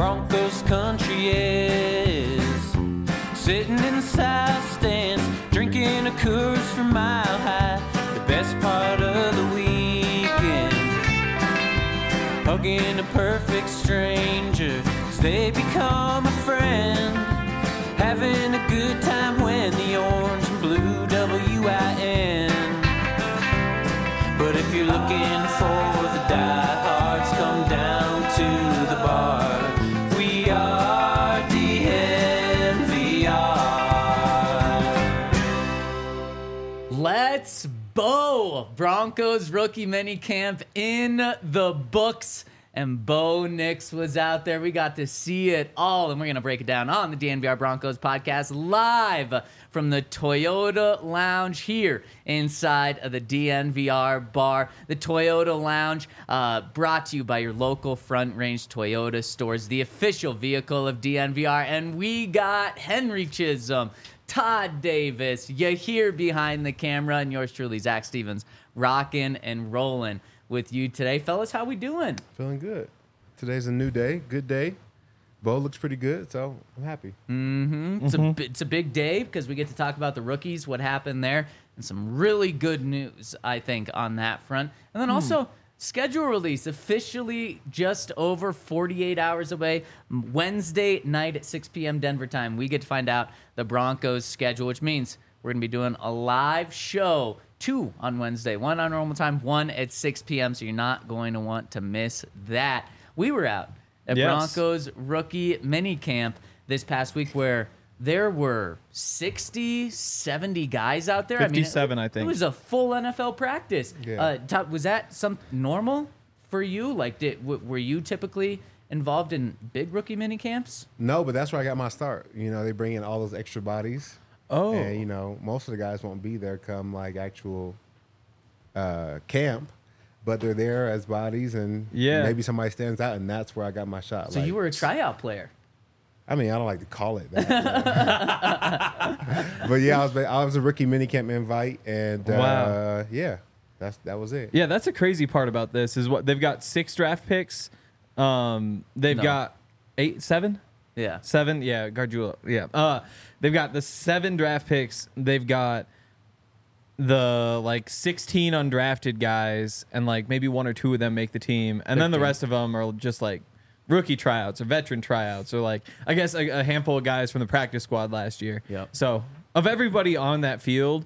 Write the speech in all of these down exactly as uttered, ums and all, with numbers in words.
Broncos country is. Sitting in the south stands, drinking a Coors from Mile High. The best part of the weekend, hugging a perfect stranger as they become a friend. Having a good time when the orange and blue W I N. But if you're looking for the diehards, come down to the bar. We are D N V R. Let's Bo! Broncos rookie minicamp in the books. And Bo Nix was out there. We got to see it all, and we're going to break it down on the D N V R Broncos podcast live from the Toyota Lounge here inside of the D N V R bar. The Toyota Lounge, uh, brought to you by your local Front Range Toyota stores, the official vehicle of D N V R. And we got Henry Chisholm, Todd Davis, you here behind the camera, and yours truly, Zach Stevens, rocking and rolling with you today. Fellas, how we doing? Feeling good. Today's a new day, good day. Bo looks pretty good, so I'm happy. Mm-hmm. It's, mm-hmm. a, it's a big day because we get to talk about the rookies, what happened there, and some really good news, I think, on that front. And then also, mm. schedule release, officially just over forty-eight hours away. Wednesday night at six p.m. Denver time, we get to find out the Broncos schedule, which means we're going to be doing a live show. Two on Wednesday, one on normal time, one at six p.m., so you're not going to want to miss that. We were out at yes. Broncos rookie minicamp this past week where there were sixty, seventy guys out there. fifty-seven, I, mean, it, I think. It was a full N F L practice. Yeah. Uh, Todd, was that some normal for you? Like, did, w- were you typically involved in big rookie minicamps? No, but that's where I got my start. You know, they bring in all those extra bodies. Oh. And, you know, most of the guys won't be there come, like, actual uh, camp, but they're there as bodies, and yeah. maybe somebody stands out, and that's where I got my shot. So like, you were a tryout player. I mean, I don't like to call it that. But, yeah, I was I was a rookie minicamp invite, and, uh, wow. yeah, that's that was it. Yeah, that's a crazy part about this is what they've got six draft picks. Um, they've No. got eight, seven? Yeah. Seven, yeah, Gargiulo, yeah. Uh, they've got the seven draft picks. They've got the, like, sixteen undrafted guys, and, like, maybe one or two of them make the team. And then the rest of them are just, like, rookie tryouts or veteran tryouts or, like, I guess a, a handful of guys from the practice squad last year. Yep. So, of everybody on that field,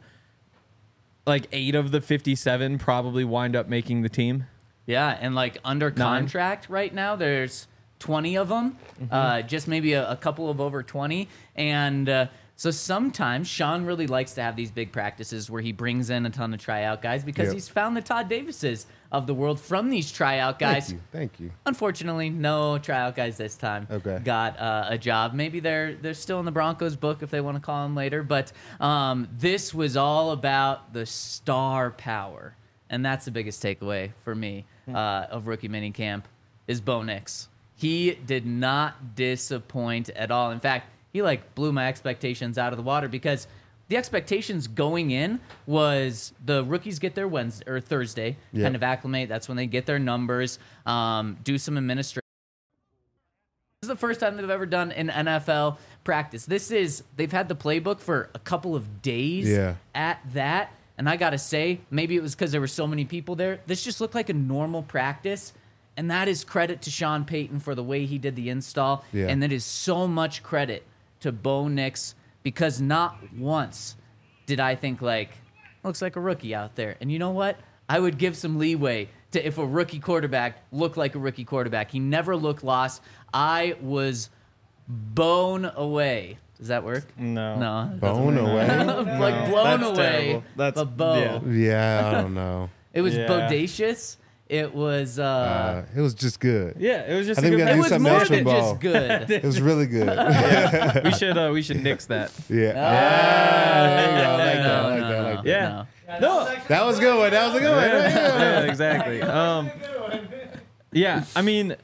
like, eight of the fifty-seven probably wind up making the team. Yeah, and, like, under Nine. contract right now, there's twenty of them, mm-hmm. uh, just maybe a, a couple of over twenty. And uh, so sometimes Sean really likes to have these big practices where he brings in a ton of tryout guys because Yep. he's found the Todd Davises of the world from these tryout guys. Thank you. Thank you. Unfortunately, no tryout guys this time Okay. got uh, a job. Maybe they're they're still in the Broncos book if they want to call them later. But um, this was all about the star power, and that's the biggest takeaway for me uh, of rookie minicamp is Bo Nix. He did not disappoint at all. In fact, he like blew my expectations out of the water because the expectations going in was the rookies get their Wednesday or Thursday, Yeah. kind of acclimate. That's when they get their numbers, um, do some administration. This is the first time they've ever done an N F L practice. This is, they've had the playbook for a couple of days Yeah. at that. And I got to say, maybe it was because there were so many people there. This just looked like a normal practice. And that is credit to Sean Payton for the way he did the install. Yeah. And that is so much credit to Bo Nix because not once did I think, like, looks like a rookie out there. And you know what? I would give some leeway to if a rookie quarterback looked like a rookie quarterback. He never looked lost. I was blown away. Does that work? No. No. it Blown doesn't work. away? Like No, blown that's away. terrible. That's- but Bo. yeah. Yeah, I don't know. It was Yeah. bodacious. It was... Uh, Uh, it was just good. Yeah, it was just I a think we good gotta it do was something more else with than Bo. just good. It was really good. yeah. We should uh, we should nix that. Yeah. Ah, there you go. I like that. I no, like no, that. I like no, that. Yeah. no. No. That was a good one. That was a good one. Yeah, yeah, exactly. Um, yeah, I mean,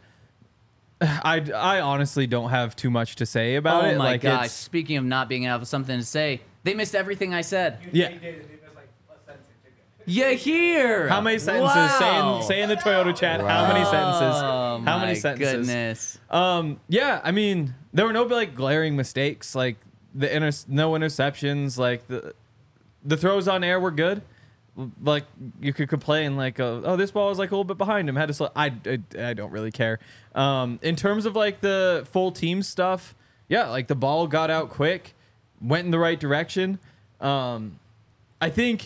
I, I honestly don't have too much to say about Oh it. my like, gosh! it's- Speaking of not being able something to say, they missed everything I said. Yeah. You hear? How many sentences? Wow. Say in, say in the Toyota chat. How many sentences? Oh, How many my sentences? goodness. Um, yeah, I mean, there were no like glaring mistakes, like the inter- no interceptions, like the the throws on air were good. Like you could complain, like, uh, oh, this ball was like a little bit behind him. Had to slow. I, I I don't really care. Um, in terms of like the full team stuff, yeah, like the ball got out quick, went in the right direction. Um, I think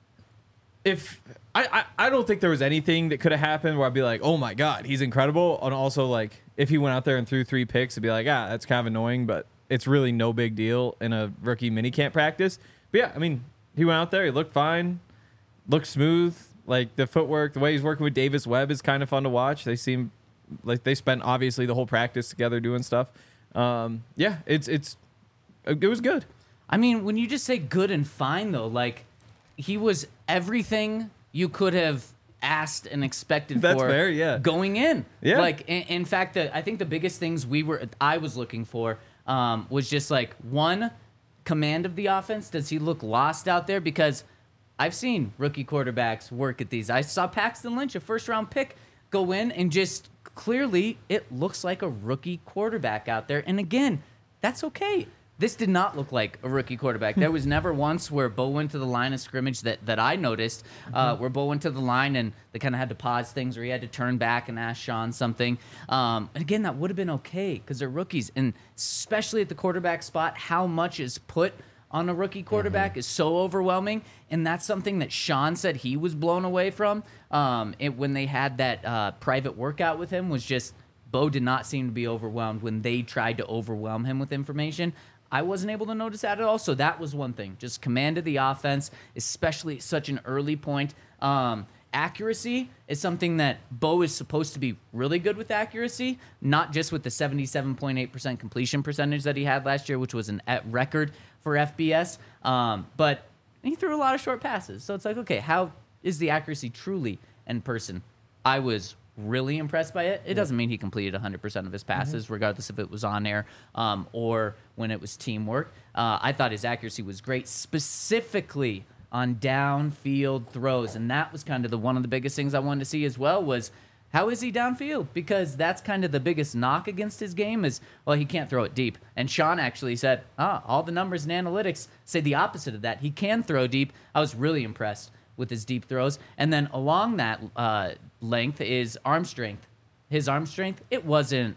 if I, I I don't think there was anything that could have happened where I'd be like, oh my god, he's incredible. And also like if he went out there and threw three picks, it'd be like, ah, that's kind of annoying, but it's really no big deal in a rookie minicamp practice. But yeah, I mean, he went out there, he looked fine. Looked smooth, like the footwork, the way he's working with Davis Webb is kind of fun to watch. They seem like they spent obviously the whole practice together doing stuff. Um, yeah, it's it's it was good. I mean, when you just say good and fine, though, like he was everything you could have asked and expected That's for fair, yeah. going in. Yeah. Like, in, in fact, the, I think the biggest things we were I was looking for um, was just like one, command of the offense. Does he look lost out there? Because I've seen rookie quarterbacks work at these. I saw Paxton Lynch, a first-round pick, go in and just clearly it looks like a rookie quarterback out there. And again, that's okay. This did not look like a rookie quarterback. There was never once where Bo went to the line of scrimmage that, that I noticed, uh, where Bo went to the line and they kind of had to pause things or he had to turn back and ask Sean something. Um, and again, that would have been okay because they're rookies. And especially at the quarterback spot, how much is put on a rookie quarterback mm-hmm. is so overwhelming, and that's something that Sean said he was blown away from. Um, it, when they had that uh, private workout with him, was just Bo did not seem to be overwhelmed when they tried to overwhelm him with information. I wasn't able to notice that at all, so that was one thing. Just commanded the offense, especially at such an early point. Um, accuracy is something that Bo is supposed to be really good with accuracy, not just with the seventy-seven point eight percent completion percentage that he had last year, which was an at record for F B S, um, but he threw a lot of short passes. So it's like, okay, how is the accuracy truly in person? I was really impressed by it. It doesn't mean he completed one hundred percent of his passes, mm-hmm. regardless if it was on air um, or when it was teamwork. Uh, I thought his accuracy was great, specifically on downfield throws, and that was kind of the one of the biggest things I wanted to see as well was how is he downfield? Because that's kind of the biggest knock against his game is, well, he can't throw it deep. And Sean actually said, ah, all the numbers and analytics say the opposite of that. He can throw deep. I was really impressed with his deep throws. And then along that uh, length is arm strength. His arm strength, it wasn't,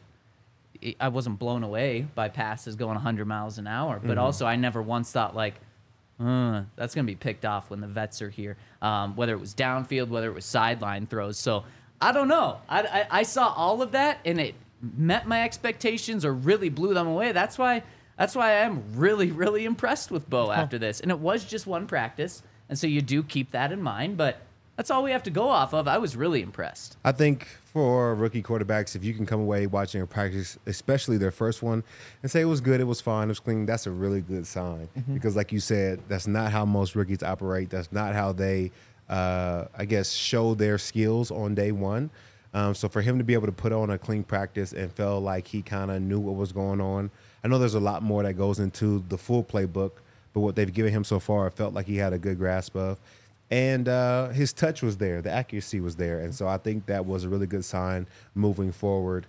I wasn't blown away by passes going one hundred miles an hour. But mm-hmm. also I never once thought like, uh, that's going to be picked off when the vets are here, um, whether it was downfield, whether it was sideline throws. So I don't know. I, I, I saw all of that, and it met my expectations or really blew them away. That's why that's why I am really, really impressed with Bo after this. And it was just one practice, and so you do keep that in mind. But that's all we have to go off of. I was really impressed. I think for rookie quarterbacks, if you can come away watching a practice, especially their first one, and say it was good, it was fine, it was clean, that's a really good sign. Mm-hmm. Because like you said, that's not how most rookies operate. That's not how they – Uh, I guess, show their skills on day one. Um, so for him to be able to put on a clean practice and felt like he kind of knew what was going on. I know there's a lot more that goes into the full playbook, but what they've given him so far, I felt like he had a good grasp of. And uh, his touch was there. The accuracy was there. And so I think that was a really good sign moving forward.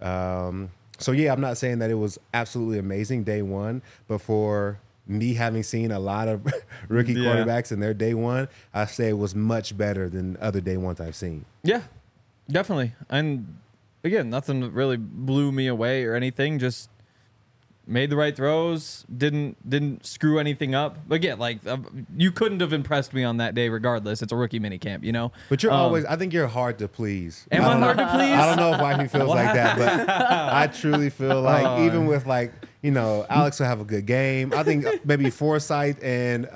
Um, so, yeah, I'm not saying that it was absolutely amazing day one, but for me having seen a lot of rookie yeah. quarterbacks in their day one, I say it was much better than other day ones I've seen. Yeah, definitely. And again, nothing really blew me away or anything. Just made the right throws, didn't didn't screw anything up. But again, like uh, you couldn't have impressed me on that day regardless. It's a rookie minicamp, you know? But you're um, always, I think you're hard to please. Am I, I hard know, to please? I don't know if wifey feels like that, but I truly feel like uh, even with like, you know, Alex will have a good game. I think maybe Forsythe and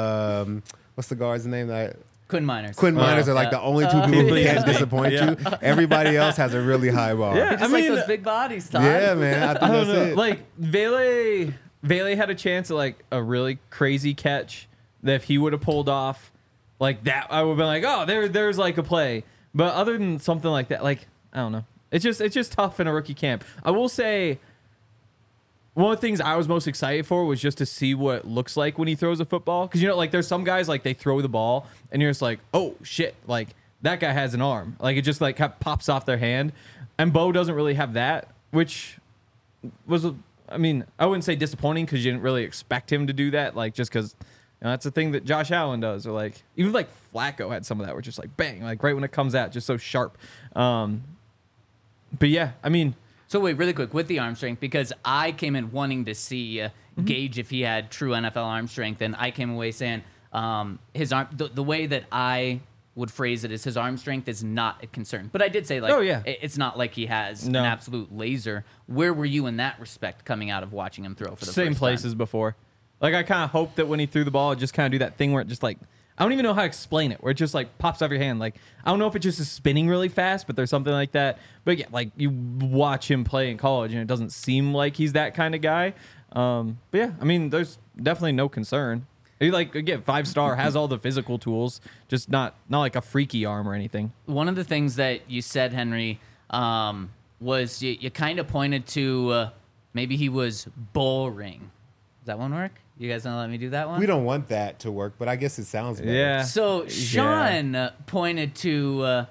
um, what's the guard's name? That Quinn Miners. Quinn Miners uh, are like yeah. the only two people who Uh, can't disappoint yeah. you. Everybody else has a really high bar. Yeah. Just I like mean, those big bodies, Todd. Yeah, man. I think I don't that's know. it. Like Vele, Vele had a chance at like a really crazy catch that if he would have pulled off like that, I would have been like, oh, there, there's like a play. But other than something like that, like I don't know, it's just it's just tough in a rookie camp. I will say, one of the things I was most excited for was just to see what it looks like when he throws a football. Because, you know, like there's some guys, like they throw the ball and you're just like, oh, shit. Like that guy has an arm. Like it just like kind of pops off their hand. And Bo doesn't really have that, which was, I mean, I wouldn't say disappointing because you didn't really expect him to do that. Like just because you know, that's the thing that Josh Allen does. Or like, even like Flacco had some of that where just like bang, like right when it comes out, just so sharp. Um, but yeah, I mean, So wait, really quick with the arm strength, because I came in wanting to see uh, Mm-hmm. gauge if he had true N F L arm strength, and I came away saying um, his arm. The, the way that I would phrase it is his arm strength is not a concern. But I did say like, Oh, yeah. it- it's not like he has No. an absolute laser. Where were you in that respect coming out of watching him throw for the same first place as before. Like I kind of hoped that when he threw the ball, it just kind of do that thing where it just like I don't even know how to explain it, where it just like pops off your hand. Like I don't know if it just is spinning really fast, but there's something like that. But yeah, like you watch him play in college, and it doesn't seem like he's that kind of guy. Um, but yeah, I mean, there's definitely no concern. He like again five star, has all the physical tools, just not not like a freaky arm or anything. One of the things that you said, Henry, um, was you, you kind of pointed to uh, maybe he was boring. Does that one work? You guys gonna let me do that one? We don't want that to work, but I guess it sounds better. Yeah. So Sean uh, pointed to uh,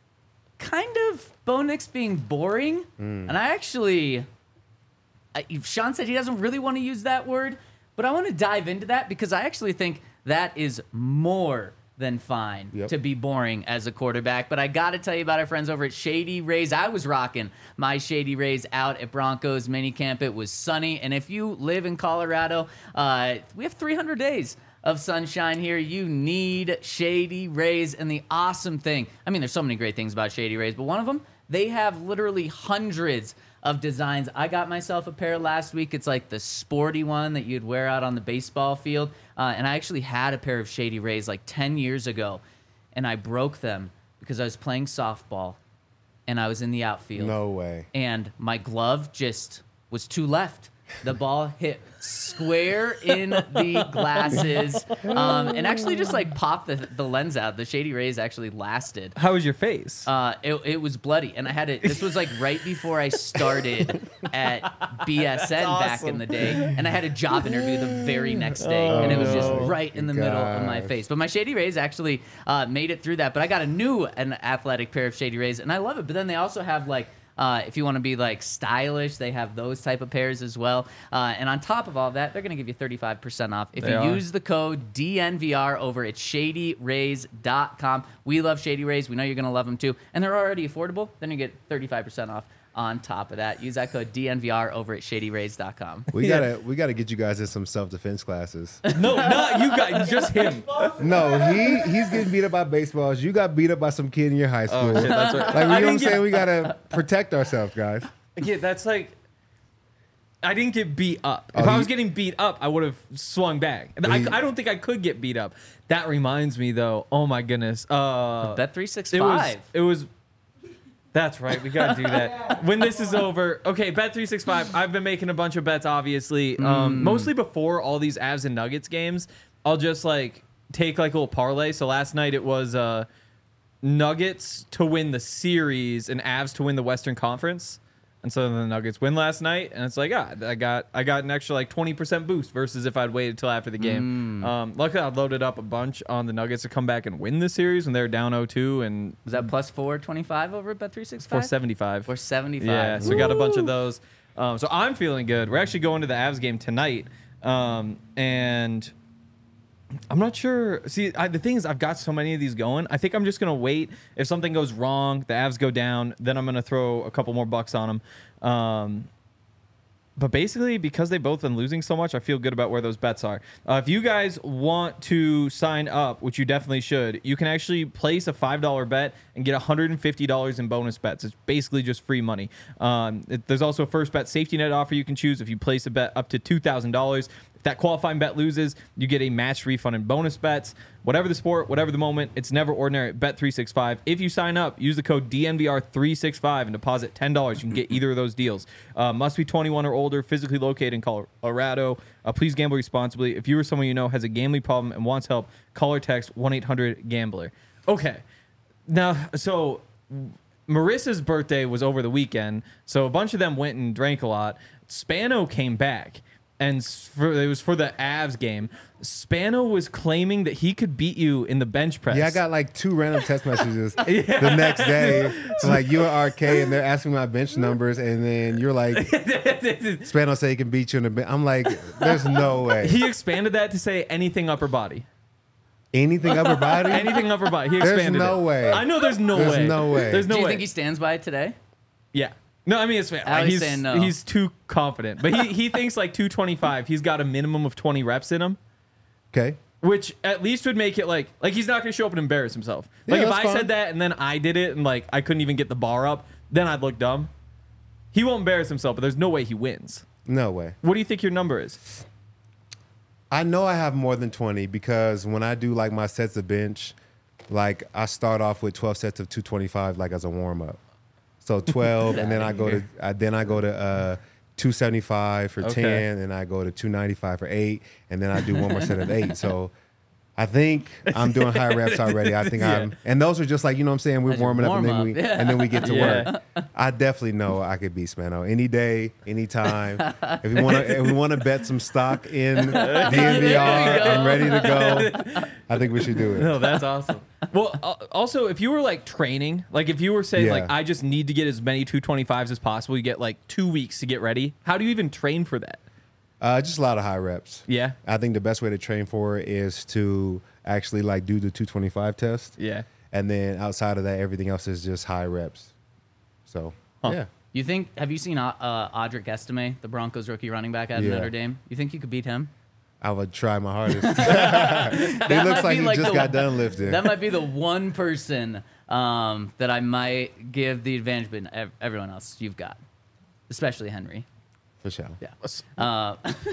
kind of Bo Nix being boring, and I actually, I, Sean said he doesn't really want to use that word, but I want to dive into that because I actually think that is more than fine Yep. to be boring as a quarterback. But I got to tell you about our friends over at Shady Rays. I was rocking my Shady Rays out at Broncos minicamp. It was sunny, and if you live in Colorado, uh, we have three hundred days of sunshine here. You need Shady Rays. And the awesome thing, I mean, there's so many great things about Shady Rays, but one of them, they have literally hundreds of designs. I got myself a pair last week. It's like the sporty one that you'd wear out on the baseball field. Uh, and I actually had a pair of Shady Rays like ten years ago, and I broke them because I was playing softball and I was in the outfield. No way. And my glove just was too left. The ball hit square in the glasses, um, and actually just like popped the, the lens out. The Shady Rays actually lasted. How was your face? Uh, it, it was bloody, and I had it. This was like right before I started at B S N back in the day, and I had a job interview the very next day, and it was just Oh, right in the middle of my gosh. face. But my Shady Rays actually uh, made it through that. But I got a new an athletic pair of Shady Rays, and I love it. But then they also have like. Uh, if you want to be like stylish, they have those type of pairs as well. Uh, and on top of all that, they're going to give you thirty-five percent off if They you are. use the code D N V R over at shady rays dot com. We love Shady Rays. We know you're going to love them too. And they're already affordable. Then you get thirty-five percent off on top of that. Use that code D N V R over at shady rays dot com. We gotta we gotta get you guys in some self defense classes. no, not you got just him. No, he he's getting beat up by baseballs. You got beat up by some kid in your high school. Oh shit, that's right. Like you know what I'm didn't get- saying? We gotta protect ourselves, guys. Yeah, that's like. I didn't get beat up. If Oh, I was you- getting beat up, I would have swung back. I, you- I don't think I could get beat up. That reminds me, though. Oh my goodness. Uh, Bet three six it was. five. It was. That's right. We gotta do that when this is over. Okay, Bet three six five. I've been making a bunch of bets, obviously, um, mostly before all these Avs and Nuggets games. I'll just like take like a little parlay. So last night it was uh, Nuggets to win the series and Avs to win the Western Conference. And so the Nuggets win last night, and it's like, ah, I got I got an extra like twenty percent boost versus if I'd waited till after the game. Um, luckily, I loaded up a bunch on the Nuggets to come back and win the series when they were down oh two and Was that plus four twenty-five over at Bet three six five? four seventy-five. four seventy-five. Yeah, so we got a bunch of those. Um, so I'm feeling good. We're actually going to the Avs game tonight, um, and I'm not sure. See, I, the thing is, I've got so many of these going. I think I'm just gonna wait. If something goes wrong, the Avs go down, then I'm gonna throw a couple more bucks on them. Um, but basically, because they've both been losing so much, I feel good about where those bets are. Uh, if you guys want to sign up, which you definitely should, you can actually place a five dollar bet and get one hundred fifty dollars in bonus bets. It's basically just free money. Um, it, there's also a first bet safety net offer you can choose if you place a bet up to two thousand dollars. If that qualifying bet loses, you get a matched refund in bonus bets. Whatever the sport, whatever the moment, it's never ordinary at Bet three sixty-five. If you sign up, use the code D N V R three sixty-five and deposit ten dollars. You can get either of those deals. Uh, must be twenty-one or older, physically located in Colorado. Uh, please gamble responsibly. If you or someone you know has a gambling problem and wants help, call or text one eight hundred gambler. Okay. Now, so Marissa's birthday was over the weekend, so a bunch of them went and drank a lot. Spano came back, and for, it was for the Avs game. Spano was claiming that he could beat you in the bench press. Yeah, I got like two random text messages yeah. the next day. So like you at R K and they're asking my bench numbers, and then you're like, Spano say he can beat you in the bench. I'm like, there's no way. He expanded that to say anything upper body. Anything upper body? Anything upper body. He There's expanded no it. way. I know there's no There's way. no way. There's no Do you way. think he stands by it today? Yeah. No, I mean it's fair. Allie's he's saying no. he's too confident, but he he thinks like two twenty-five. He's got a minimum of twenty reps in him. Okay. Which at least would make it like like he's not gonna show up and embarrass himself. Like Yeah, if that's I fine. said that and then I did it and like I couldn't even get the bar up, then I'd look dumb. He won't embarrass himself, but there's no way he wins. No way. What do you think your number is? I know I have more than twenty because when I do like my sets of bench, like I start off with twelve sets of two twenty-five like as a warm up. So twelve, and then I go to I, then I go to uh, two seventy-five for Okay. ten, and I go to two ninety-five for eight, and then I do one more set of eight. So I think I'm doing high reps already. I think Yeah. I'm, and those are just like you know what I'm saying. We're That's your warming up, and then warm-up, we yeah. and then we get to Yeah. work. I definitely know I could beat Spano any day, anytime. If we want to, if we want to bet some stock in D N V R, There you go. I'm ready to go. I think we should do it. No, that's awesome. Well, uh, also, if you were like training, like if you were saying Yeah. like I just need to get as many two twenty-fives as possible, you get like two weeks to get ready. How do you even train for that? Uh, just a lot of high reps. Yeah. I think the best way to train for it is to actually like do the two twenty-five test. Yeah. And then outside of that, everything else is just high reps. So, Huh. yeah. You think? Have you seen uh, uh, Audric Estime, the Broncos rookie running back out of Yeah. Notre Dame? You think you could beat him? I would try my hardest. he That looks might like be he like just the- got done lifting. That might be the one person um, that I might give the advantage, but ev- everyone else you've got, especially Henry. For sure. Yeah. Uh,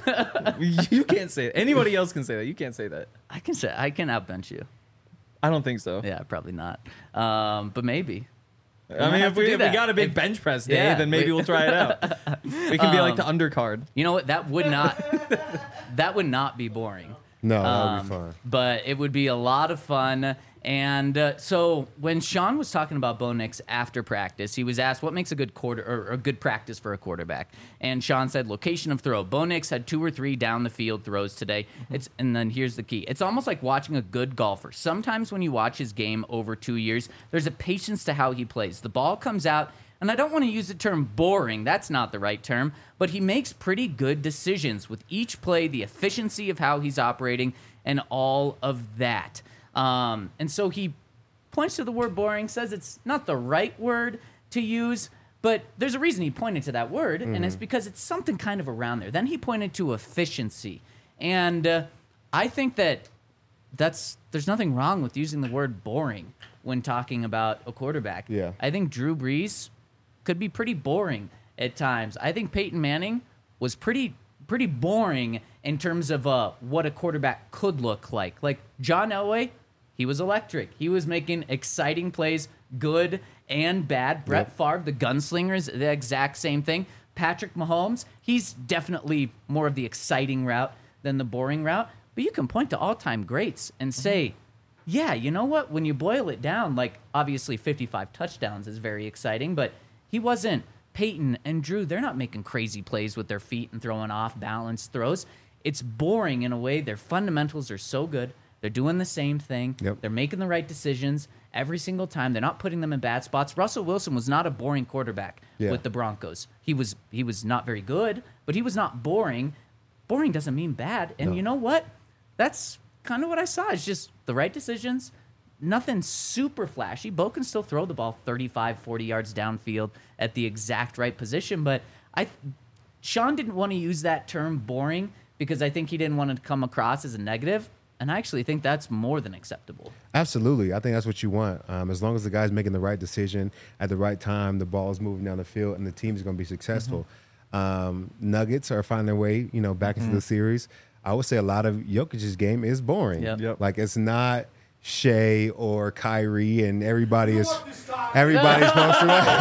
You can't say that. Anybody else can say that. You can't say that. I can say I can outbench you. I don't think so. Yeah, probably not. Um, but maybe. I might mean, have if to we, do if we that. got a big If- bench press day, Yeah, then maybe we- we'll try it out. We can be like the undercard. You know what? That would not. that would not be boring. No, that would Um, be fun. But it would be a lot of fun. And uh, so when Sean was talking about Bo Nix after practice, he was asked what makes a good quarter or a good practice for a quarterback. And Sean said location of throw. Bo Nix had two or three down the field throws today. It's and then here's the key. It's almost like watching a good golfer. Sometimes when you watch his game over two years, there's a patience to how he plays. The ball comes out. And I don't want to use the term boring. That's not the right term. But he makes pretty good decisions with each play, the efficiency of how he's operating, and all of that. Um, and so he points to the word boring, says it's not the right word to use, but there's a reason he pointed to that word, and it's because it's something kind of around there. Then he pointed to efficiency. And uh, I think that that's there's nothing wrong with using the word boring when talking about a quarterback. Yeah. I think Drew Brees could be pretty boring at times. I think Peyton Manning was pretty pretty boring in terms of uh, what a quarterback could look like. Like John Elway, he was electric. He was making exciting plays, good and bad. Brett Yep. Favre, the gunslinger, is the exact same thing. Patrick Mahomes, he's definitely more of the exciting route than the boring route. But you can point to all-time greats and say, yeah, you know what? When you boil it down, like obviously fifty-five touchdowns is very exciting, but he wasn't. Peyton and Drew, they're not making crazy plays with their feet and throwing off balanced throws. It's boring in a way. Their fundamentals are so good. They're doing the same thing. Yep. They're making the right decisions every single time. They're not putting them in bad spots. Russell Wilson was not a boring quarterback Yeah. with the Broncos. He was he was not very good, but he was not boring. Boring doesn't mean bad. And No. you know what? That's kind of what I saw. It's just the right decisions. Nothing super flashy. Bo can still throw the ball thirty-five, forty yards downfield at the exact right position. But I, Sean didn't want to use that term boring because I think he didn't want to come across as a negative. And I actually think that's more than acceptable. Absolutely. I think that's what you want. Um, as long as the guy's making the right decision at the right time, the ball is moving down the field, and the team is going to be successful. Um, Nuggets are finding their way, you know, back into the series. I would say a lot of Jokic's game is boring. Yep. Yep. Like it's not Shea or Kyrie, and everybody is everybody's supposed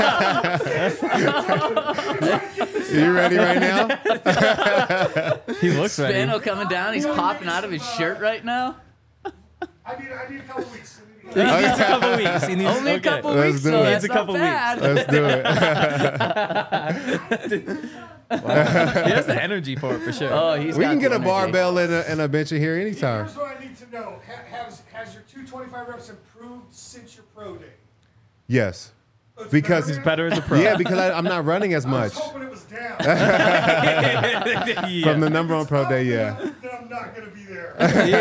to. You ready right now? He looks ready. Spano coming down. He's popping out of his shirt right now. I need, I need a couple weeks. I need a He needs a couple weeks. He needs, Only a okay. couple Let's weeks, do so it. that's Needs a not couple bad. Let's do it. He has the energy for it for sure. Oh, he's We got can get the a energy. barbell and a, and a bench in here anytime. Here's what I need to know. Ha- has, has your two twenty-five reps improved since your pro day? Yes. It's Because better He's better as a pro. Yeah, because I, I'm not running as now? I much. was hoping it was down. yeah. From the number on pro It's day, up, yeah. Then I'm not going to be there.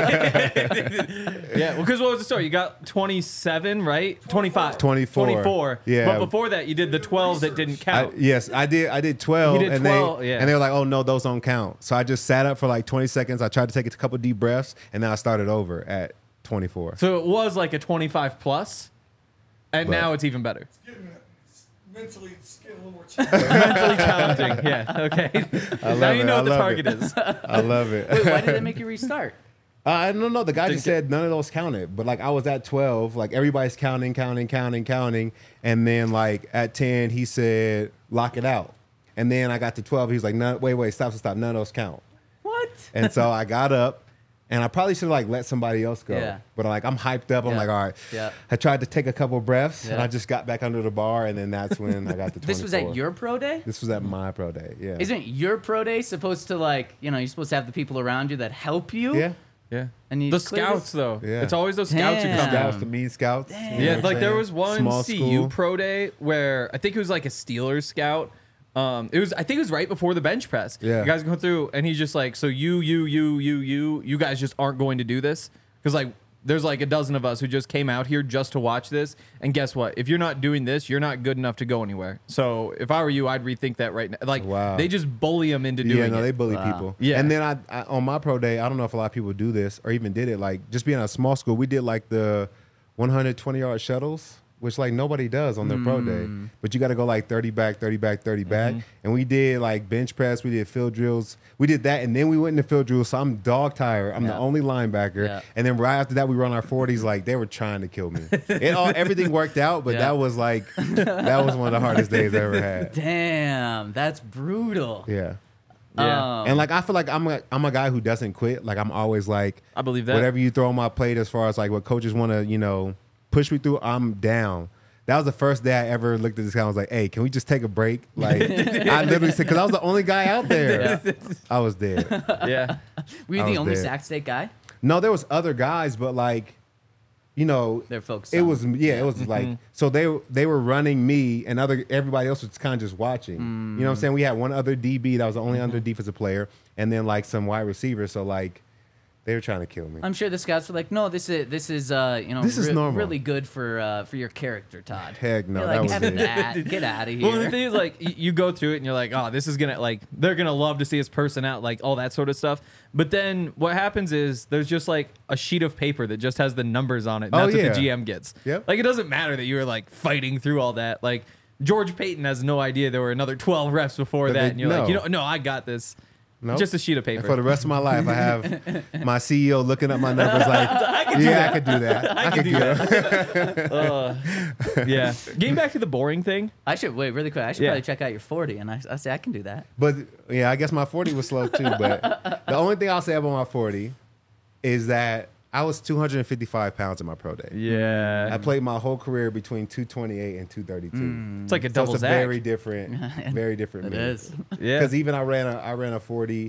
Yeah, well, because what was the story? You got twenty-seven, right? twenty-five. twenty-four. twenty-four. Yeah. But before that, you did the twelve that didn't I, count. yes, I did. I did twelve, He did and twelve, they yeah. and they were like, "Oh no, those don't count." So I just sat up for like twenty seconds. I tried to take a couple deep breaths, and then I started over at twenty-four. So it was like a twenty-five plus, and But- now it's even better. Getting, it's mentally, it's getting a little more challenging. Mentally challenging. Yeah. Okay. love now you it, know I what the love target it. is. I love it. Wait, why did they make you restart? Uh, I don't know. The guy just Didn't said none of those counted, but like I was at twelve, like everybody's counting, counting, counting, counting, and then like at ten, he said lock it out, and then I got to twelve. He was like, no, wait, wait, stop, stop, stop. None of those count. What? And so I got up, and I probably should have like let somebody else go. Yeah. But like I'm hyped up. I'm Yeah. like, all right. Yeah. I tried to take a couple breaths, and Yeah. I just got back under the bar, and then that's when I got the. This was at your pro day? This was at my pro day. Yeah. Isn't your pro day supposed to, like, you know, you're supposed to have the people around you that help you? Yeah. Yeah. And you The clear scouts, this? though. Yeah. It's always those scouts who Damn. come Scouts, out. the mean scouts. you know Yeah, what like I'm there saying? was one Small C U school. pro day where I think it was like a Steelers scout. Um, it was I think it was right before the bench press. Yeah. You guys go through and he's just like, so you, you, you, you, you, you guys just aren't going to do this because like there's like a dozen of us who just came out here just to watch this. And guess what? If you're not doing this, you're not good enough to go anywhere. So if I were you, I'd rethink that right now. Like Wow. they just bully them into doing Yeah, no, it. they bully Wow. people. Yeah. And then I, I on my pro day, I don't know if a lot of people do this or even did it. Like just being at a small school, we did like the one hundred twenty yard shuttles, which like nobody does on their pro day. But you got to go like thirty back, thirty back, thirty back. And we did like bench press, we did field drills, we did that, and then we went into field drills. So I'm dog tired. I'm Yeah. the only linebacker. Yeah. And then right after that, we were on our forties. Like they were trying to kill me. It all everything worked out, but Yeah. that was like that was one of the hardest days I ever had. Damn, that's brutal. Yeah. Yeah. Um, And like I feel like I'm a I'm a guy who doesn't quit. Like I'm always like I believe that. whatever you throw on my plate as far as like what coaches want to, you know, push me through, I'm down. That was the first day I ever looked at this guy. I was like, hey, can we just take a break? Like I literally said, because I was the only guy out there. Yeah. I was dead. yeah. Were you I the was only dead. Sac State guy? No, there was other guys, but like, you know, They're focused it on- was yeah, it was like so they they were running me and other everybody else was kind of just watching. You know what I'm saying? We had one other D B that was the only other defensive player, and then like some wide receivers. So like, they were trying to kill me. I'm sure the scouts were like, "No, this is this is uh, you know, This is re- normal. really good for uh, for your character, Todd." Heck no, You're that like, was "Have it. that, get out of here." Well, the thing is, like, y- you go through it and you're like, oh, this is gonna like they're gonna love to see his person out, like all that sort of stuff. But then what happens is there's just like a sheet of paper that just has the numbers on it. And Oh, that's what yeah. the G M gets. Yep. Like it doesn't matter that you were like fighting through all that. Like George Payton has no idea there were another twelve reps before But that, they- and you're like, no. you know, no, I got this. Nope. Just a sheet of And paper. for the rest of my life, I have my C E O looking up my numbers like, yeah, I could do that. I, could do that. Uh, yeah. Getting back to the boring thing. I should wait really quick. I should Yeah. probably check out your forty, and I, I say I can do that. But yeah, I guess my forty was slow too. But the only thing I'll say about my forty is that I was two hundred fifty-five pounds in my pro day. Yeah. I played my whole career between two twenty-eight and two thirty-two. It's like a So double it's a Zach. very different, very different. It is. Yeah. Because even I ran a I ran a forty,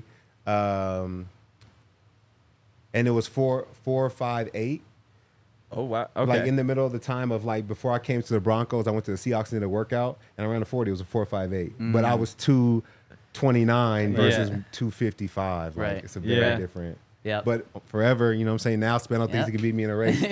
um, and it was four four five eight. Oh wow. Okay. Like in the middle of the time of like before I came to the Broncos, I went to the Seahawks and did a workout, and I ran a forty. It was a four five eight, but I was two twenty nine versus Yeah. two fifty five. Like Right. it's a very Yeah. different. Yeah. But forever, you know what I'm saying? Now spend on things Yeah. that can beat me in a race. Too.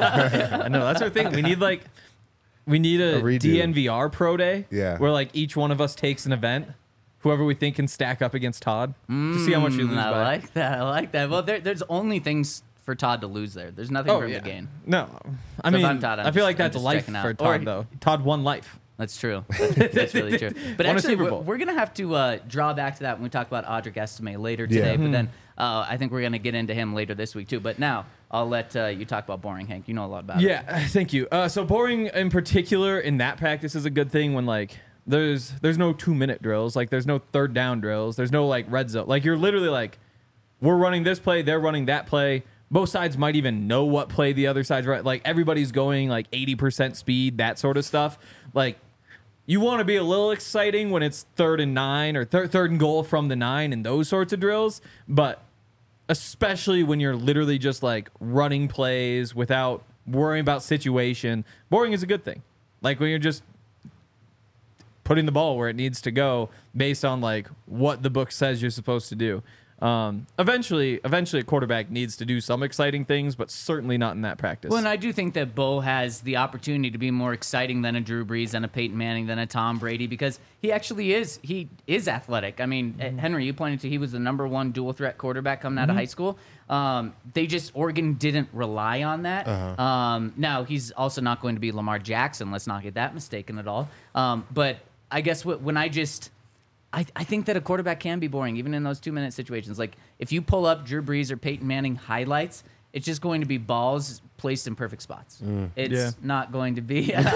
I know that's our thing. We need like we need a, A redo. D N V R pro day. Yeah. Where like each one of us takes an event, whoever we think can stack up against Todd, to see how much you lose Mm, I by. like that. I like that. Well, there, there's only things for Todd to lose there. There's nothing Oh for him yeah. to gain. No, I So if mean I'm Todd, I'm I feel just- like I'm that's just life checking out. for Or- Todd though. Todd won life. That's true. That's, that's really true. But Won a actually, Super we're, Bowl. we're gonna have to uh, draw back to that when we talk about Audric Estime later today. Yeah. But then uh, I think we're gonna get into him later this week too. But now I'll let uh, you talk about boring Hank. You know a lot about it. Yeah, thank you. Uh, so boring in particular in that practice is a good thing when like there's there's no two minute drills, like there's no third down drills, there's no like red zone. Like you're literally like, we're running this play, they're running that play. both sides might even know what play the other side's right. Like everybody's going like eighty percent speed, that sort of stuff. Like you want to be a little exciting when it's third and nine or thir- third and goal from the nine and those sorts of drills. But especially when you're literally just like running plays without worrying about situation, boring is a good thing. Like when you're just putting the ball where it needs to go based on like what the book says you're supposed to do. Um, eventually, eventually, a quarterback needs to do some exciting things, but certainly not in that practice. Well, and I do think that Bo has the opportunity to be more exciting than a Drew Brees, than a Peyton Manning, than a Tom Brady, because he actually is. He is athletic. I mean, mm-hmm. Henry, you pointed to he was the number one dual threat quarterback coming out mm-hmm. of high school. Um, they just Oregon didn't rely on that. Uh-huh. Um, now he's also not going to be Lamar Jackson. Let's not get that mistaken at all. Um, but I guess what, when I just. I, I think that a quarterback can be boring, even in those two-minute situations. Like, if you pull up Drew Brees or Peyton Manning highlights, it's just going to be balls placed in perfect spots. Mm. It's yeah. not going to be... um,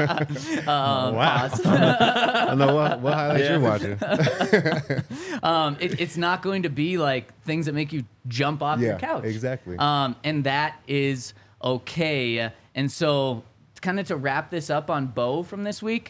wow. I know what, what highlights yeah. you're watching. um, it, it's not going to be, like, things that make you jump off yeah, your couch. Exactly. Um, and that is okay. And so, kind of to wrap this up on Bo from this week,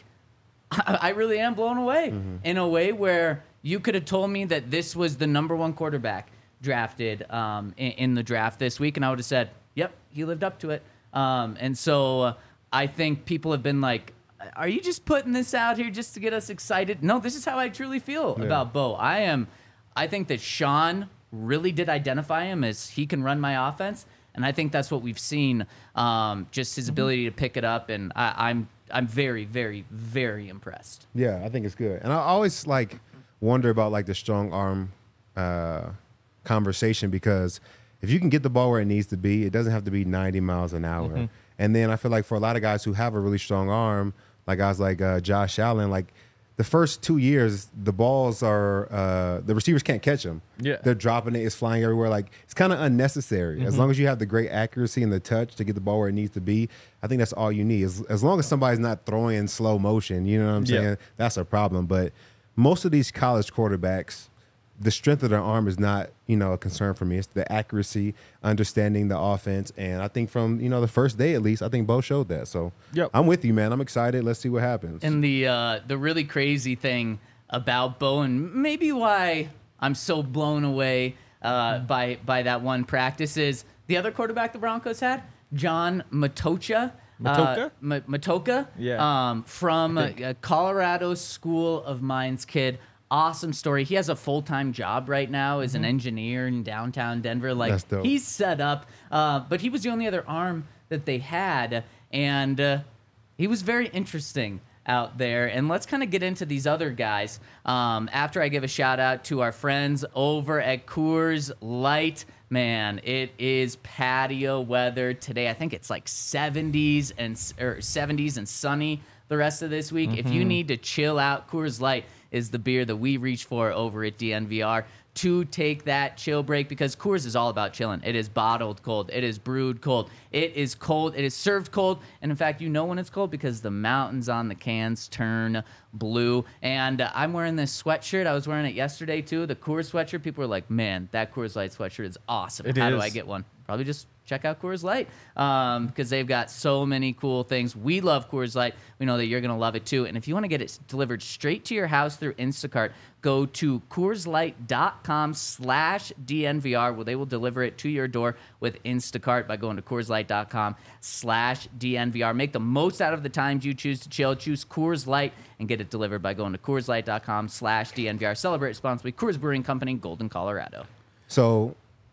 I really am blown away mm-hmm. in a way where you could have told me that this was the number one quarterback drafted um, in, in the draft this week, and I would have said, yep, he lived up to it. Um, and so uh, I think people have been like, are you just putting this out here just to get us excited? No, this is how I truly feel yeah. about Bo. I am. I think that Sean really did identify him as he can run my offense, and I think that's what we've seen, um, just his mm-hmm. ability to pick it up, and I, I'm I'm very, very, very impressed. Yeah, I think it's good. And I always like wonder about like the strong arm uh, conversation, because if you can get the ball where it needs to be, it doesn't have to be ninety miles an hour. Mm-hmm. And then I feel like for a lot of guys who have a really strong arm, like guys like uh, Josh Allen, like the first two years, the balls are uh, the receivers can't catch them. Yeah, they're dropping it. It's flying everywhere. Like it's kind of unnecessary. Mm-hmm. As long as you have the great accuracy and the touch to get the ball where it needs to be, I think that's all you need. As, as long as somebody's not throwing in slow motion, you know what I'm saying? Yeah. That's a problem. But most of these college quarterbacks, the strength of their arm is not, you know, a concern for me. It's the accuracy, understanding the offense, and I think from, you know, the first day at least, I think Bo showed that. So yep. I'm with you, man. I'm excited. Let's see what happens. And the uh, the really crazy thing about Bo, and maybe why I'm so blown away uh, mm. by by that one practice, is the other quarterback the Broncos had, John Matocha. Matocha? Uh, M- Matocha? Yeah. Um, from uh, Colorado School of Mines kid. Awesome story. He has a full-time job right now as mm-hmm. an engineer in downtown Denver. Like, he's set up, uh, but he was the only other arm that they had, and uh, he was very interesting out there. And let's kind of get into these other guys um, after I give a shout-out to our friends over at Coors Light. Man, it is patio weather today. I think it's like seventies and or seventies and sunny the rest of this week. Mm-hmm. If you need to chill out, Coors Light is the beer that we reach for over at D N V R to take that chill break, because Coors is all about chilling. It is bottled cold. It is brewed cold. It is cold. It is served cold. And in fact, you know when it's cold because the mountains on the cans turn blue. And uh, I'm wearing this sweatshirt. I was wearing it yesterday too, the Coors sweatshirt. People were like, man, that Coors Light sweatshirt is awesome. It How is. do I get one? Probably just check out Coors Light um, because they've got so many cool things. We love Coors Light. We know that you're going to love it too. And if you want to get it delivered straight to your house through Instacart, go to CoorsLight.com slash DNVR, where they will deliver it to your door with Instacart by going to CoorsLight.com slash DNVR. Make the most out of the times you choose to chill. Choose Coors Light and get it delivered by going to CoorsLight.com slash DNVR. Celebrate responsibly. Coors Brewing Company, Golden, Colorado. So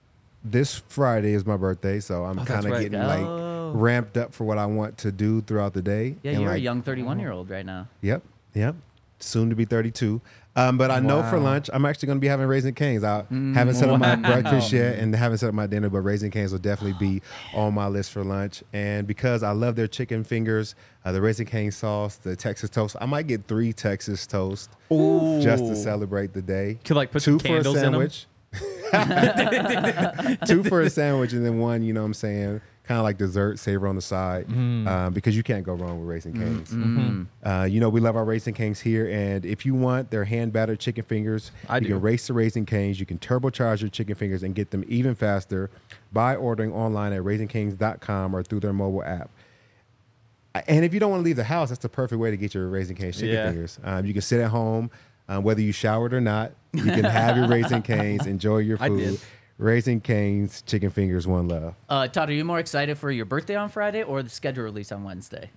this Friday is my birthday, so I'm Oh, kind that's of right. getting Oh. like ramped up for what I want to do throughout the day. Yeah, And, you're like, a young thirty-one-year-old right now. Yep, yep. Soon to be thirty-two. Um, but I know for Wow. lunch, I'm actually going to be having Raising Cane's. I Mm, haven't set up my wow. breakfast yet and haven't set up my dinner, but Raising Cane's will definitely be on my list for lunch. And because I love their chicken fingers, uh, the Raising Cane sauce, the Texas toast, I might get three Texas toast Ooh. just to celebrate the day. Could like put Two some for a candles in them. sandwich. Two for a sandwich, and then one, you know what I'm saying, kind of like dessert, savor on the side, Mm. um, because you can't go wrong with Raising Cane's. Mm-hmm. Uh, you know, we love our Raising Cane's here, and if you want their hand battered chicken fingers, I you do. can race the Raising Cane's. You can turbocharge your chicken fingers and get them even faster by ordering online at raising canes dot com or through their mobile app. And if you don't want to leave the house, that's the perfect way to get your Raising Cane's chicken Yeah. fingers. Um, you can sit at home, um, whether you showered or not. You can have your Raising Cane's, enjoy your I food. did. Raising Cane's chicken fingers, one love. Uh, Todd, are you more excited for your birthday on Friday or the schedule release on Wednesday?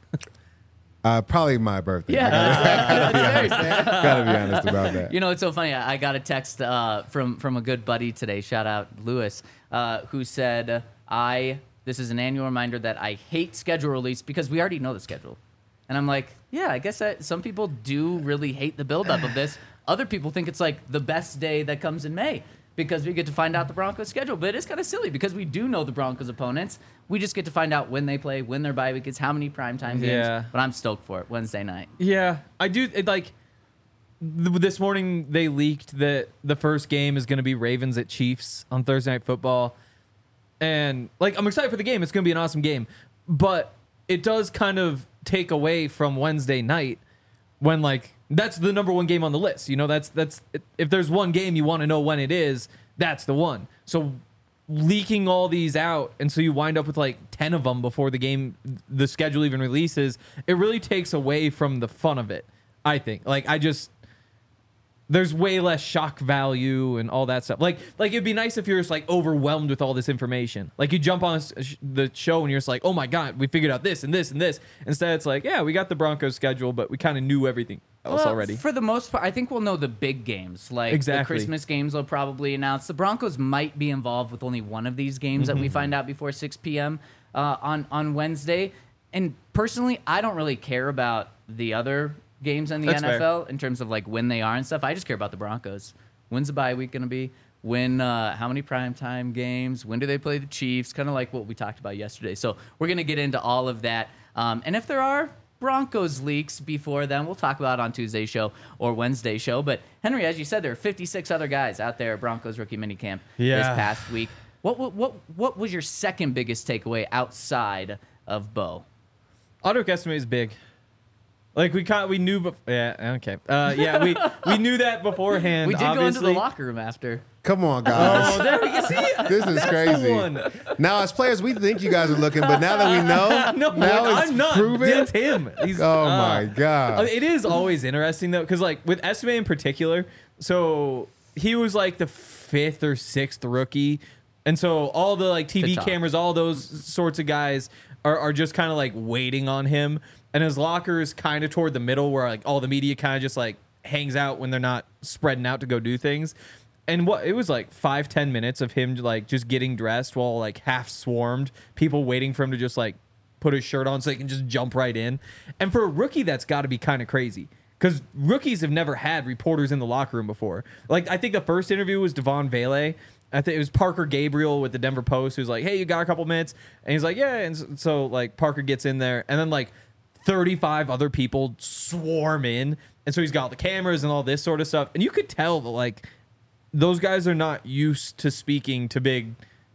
Uh, probably my birthday. Yeah, I that's fair. gotta be honest about that. You know, it's so funny. I I got a text uh, from from a good buddy today. Shout out Lewis, uh, who said, "I this is an annual reminder that I hate schedule release because we already know the schedule." And I'm like, yeah, I guess that some people do really hate the buildup of this. Other people think it's like the best day that comes in May because we get to find out the Broncos schedule. But it's kind of silly because we do know the Broncos opponents. We just get to find out when they play, when their bye week is, how many primetime games. Yeah. But I'm stoked for it Wednesday night. Yeah, I do. It, like th- this morning, they leaked that the first game is going to be Ravens at Chiefs on Thursday Night Football, and like I'm excited for the game. It's going to be an awesome game, but it does kind of take away from Wednesday night when like that's the number one game on the list. You know, that's that's if there's one game you want to know when it is, that's the one. So leaking all these out, and so you wind up with like ten of them before the game, the schedule even releases. It really takes away from the fun of it, I think. Like I just, there's way less shock value and all that stuff. Like, like it'd be nice if you're just like overwhelmed with all this information. Like you jump on a sh- the show and you're just like, oh my god, we figured out this and this and this. Instead, it's like, yeah, we got the Broncos schedule, but we kind of knew everything else Well, already. For the most part, I think we'll know the big games. Like the Exactly. Christmas games will probably announce. The Broncos might be involved with only one of these games that Mm-hmm. we find out before six p.m. Uh, on, on Wednesday. And personally, I don't really care about the other games in the That's N F L fair. in terms of like when they are and stuff. I just care about the Broncos. When's the bye week going to be? When, uh, how many primetime games? When do they play the Chiefs? Kind of like what we talked about yesterday. So we're going to get into all of that. Um, and if there are Broncos leaks before then, we'll talk about it on Tuesday's show or Wednesday's show. But Henry, as you said, there are fifty-six other guys out there at Broncos rookie minicamp this Yeah. past week. What, what what what was your second biggest takeaway outside of Bo? Auto estimate is big. Like we caught, we knew, bef- yeah, okay, uh, yeah, we we knew that beforehand. We did go into obviously. the locker room after. Come on, guys. Oh, there we go. See, This is that's the crazy. one. Now, as players, we think you guys are looking, but now that we know, No, now it's I'm not. proven. That's him. He's, Oh uh, my god! It is always interesting though, because like with Estime in particular, so he was like the fifth or sixth rookie, and so all the like T V Good talk. cameras, all those sorts of guys are, are just kind of like waiting on him, and his locker is kind of toward the middle where like all the media kind of just like hangs out when they're not spreading out to go do things. And what it was like five ten minutes of him like just getting dressed while like half swarmed, people waiting for him to just like put his shirt on so he can just jump right in. And for a rookie, that's got to be kind of crazy because rookies have never had reporters in the locker room before. Like I think the first interview was Devon Vele. I think it was Parker Gabriel with the Denver Post who's like, "Hey, you got a couple minutes?" And he's like, "Yeah." And so, so like Parker gets in there, and then like thirty-five other people swarm in, and so he's got all the cameras and all this sort of stuff, and you could tell that like those guys are not used to speaking to big,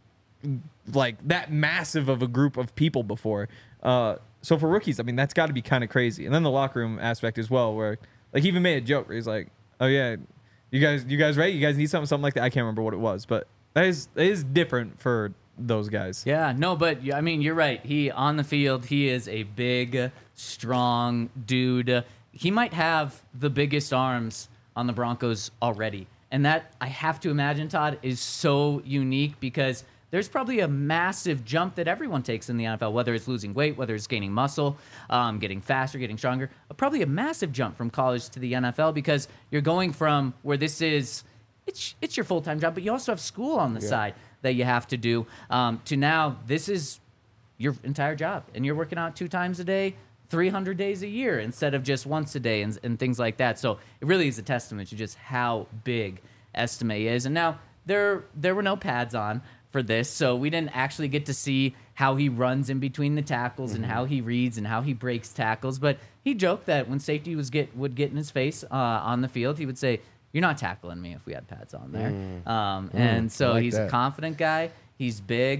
like that massive of a group of people before. Uh, so for rookies, I mean, that's got to be kind of crazy. And then the locker room aspect as well, where like he even made a joke where he's like, "Oh yeah, you guys, you guys ready? You guys need something, something like that." I can't remember what it was, but that is that is different for those guys. Yeah, no, but I mean, you're right. He on the field, he is a big, strong dude. He might have the biggest arms on the Broncos already. And that, I have to imagine, Todd, is so unique because there's probably a massive jump that everyone takes in the N F L, whether it's losing weight, whether it's gaining muscle, um, getting faster, getting stronger. Probably a massive jump from college to the N F L because you're going from where this is, it's it's your full-time job, but you also have school on the Yeah. side that you have to do, um, to now this is your entire job. And you're working out two times a day, three hundred days a year instead of just once a day and, and things like that. So it really is a testament to just how big Estime is. And now there there were no pads on for this, so we didn't actually get to see how he runs in between the tackles Mm-hmm. and how he reads and how he breaks tackles. But he joked that when safety was get would get in his face uh, on the field, he would say, "You're not tackling me if we had pads on there." Um, and I so like he's a that. confident guy. He's big.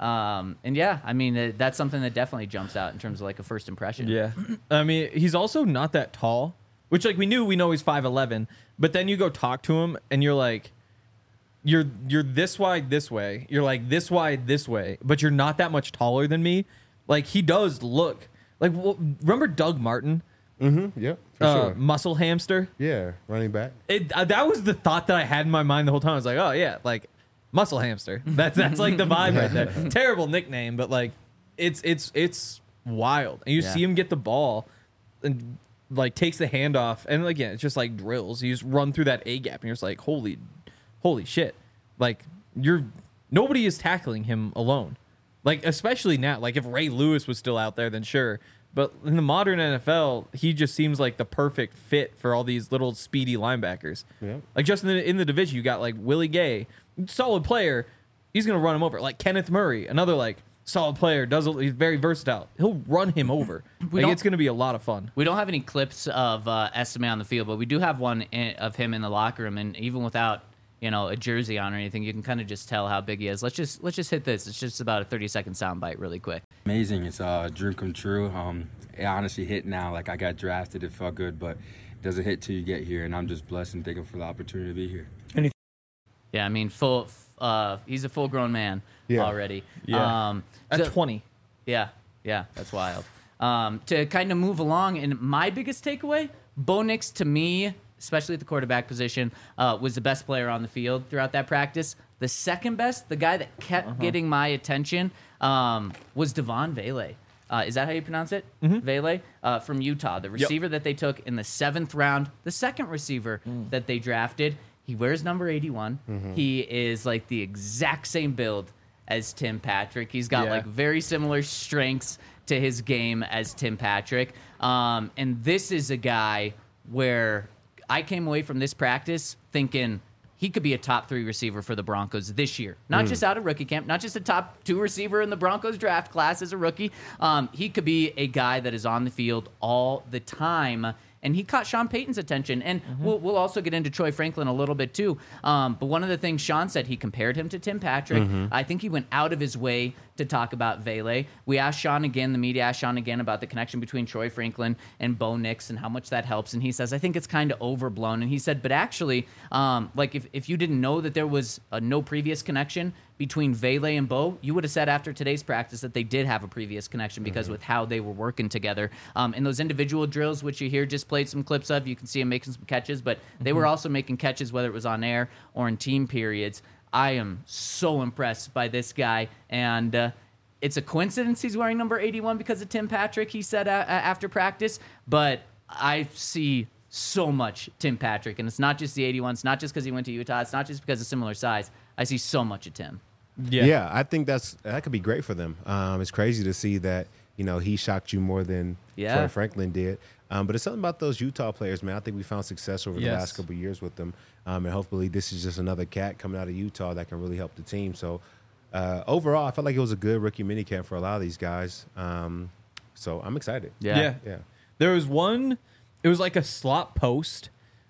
Um, and yeah, I mean, uh, that's something that definitely jumps out in terms of like a first impression. Yeah. I mean, he's also not that tall, which like we knew, we know he's five eleven, but then you go talk to him and you're like, you're, you're this wide this way. You're like this wide this way, but you're not that much taller than me. Like he does look like, well, remember Doug Martin? Mm-hmm. Yep. For Uh, sure. muscle hamster. Yeah. Running back. It, uh, that was the thought that I had in my mind the whole time. I was like, oh yeah, like muscle hamster. That's that's like the vibe right there. Terrible nickname, but like it's it's it's wild. And you Yeah. see him get the ball and like takes the handoff, and again, it's just like drills. You just run through that A gap, and you're just like, holy, holy shit! Like you're nobody is tackling him alone. Like especially now, like if Ray Lewis was still out there, then sure. But in the modern N F L, he just seems like the perfect fit for all these little speedy linebackers. Yeah. Like just in the, in the division, you got like Willie Gay, solid player. He's gonna run him over. Like Kenneth Murray, another like solid player. Does he's very versatile. He'll run him over. We Like don't- it's gonna be a lot of fun. We don't have any clips of uh, Estime on the field, but we do have one in, of him in the locker room, and even without you know a jersey on or anything, you can kind of just tell how big he is. Let's just let's just hit this. It's just about a thirty second soundbite, really quick. Amazing. It's a dream come true. Um, it honestly hit now. Like I got drafted. It felt good, but it doesn't hit till you get here. And I'm just blessed and thankful for the opportunity to be here. Yeah, I mean, full. Uh, he's a full grown man Yeah. already. Yeah. Um, At so- twenty. Yeah, yeah, that's wild. Um, to kind of move along, and my biggest takeaway, Bo Nix to me, especially at the quarterback position, uh, was the best player on the field throughout that practice. The second best, the guy that kept getting my attention, um, was Devon Vele. Uh, is that how you pronounce it? Vele uh, from Utah, the receiver that they took in the seventh round, the second receiver that they drafted. He wears number eighty-one. He is like the exact same build as Tim Patrick. He's got Yeah. like very similar strengths to his game as Tim Patrick. Um, and this is a guy where I came away from this practice thinking he could be a top three receiver for the Broncos this year. Not just out of rookie camp, not just a top two receiver in the Broncos draft class as a rookie. Um, he could be a guy that is on the field all the time. And he caught Sean Payton's attention. And we'll, we'll also get into Troy Franklin a little bit too. Um, but one of the things Sean said, he compared him to Tim Patrick. I think he went out of his way to talk about Vele. We asked Sean again, the media asked Sean again about the connection between Troy Franklin and Bo Nix and how much that helps. And he says, I think it's kind of overblown. And he said, but actually, um, like if, if you didn't know that there was a no previous connection between Vele and Bo, you would have said after today's practice that they did have a previous connection because with how they were working together. Um, and those individual drills, which you hear just played some clips of, you can see him making some catches, but they were also making catches whether it was on air or in team periods. I am so impressed by this guy, and uh, it's a coincidence he's wearing number eighty-one because of Tim Patrick, he said uh, after practice, but I see so much Tim Patrick, and it's not just the eighty-one, it's not just because he went to Utah, it's not just because of similar size. I see so much of Tim. Yeah. Yeah, I think that's that could be great for them. Um, it's crazy to see that you know he shocked you more than Yeah. Troy Franklin did. Um, but it's something about those Utah players, man. I think we found success over the Yes. last couple of years with them, um, and hopefully this is just another cat coming out of Utah that can really help the team. So uh, overall, I felt like it was a good rookie minicamp for a lot of these guys. Um, so I'm excited. Yeah. Yeah. Yeah. There was one, it was like a slot post.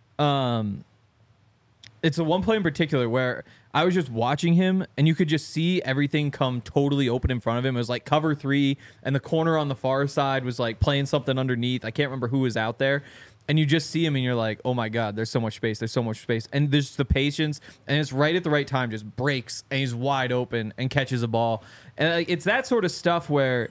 Um, it's a one play in particular where I was just watching him and you could just see everything come totally open in front of him. It was like cover three and the corner on the far side was like playing something underneath. I can't remember who was out there. And you just see him and you're like, oh my God, there's so much space. There's so much space. And there's the patience and it's right at the right time, just breaks and he's wide open and catches a ball. And like, it's that sort of stuff where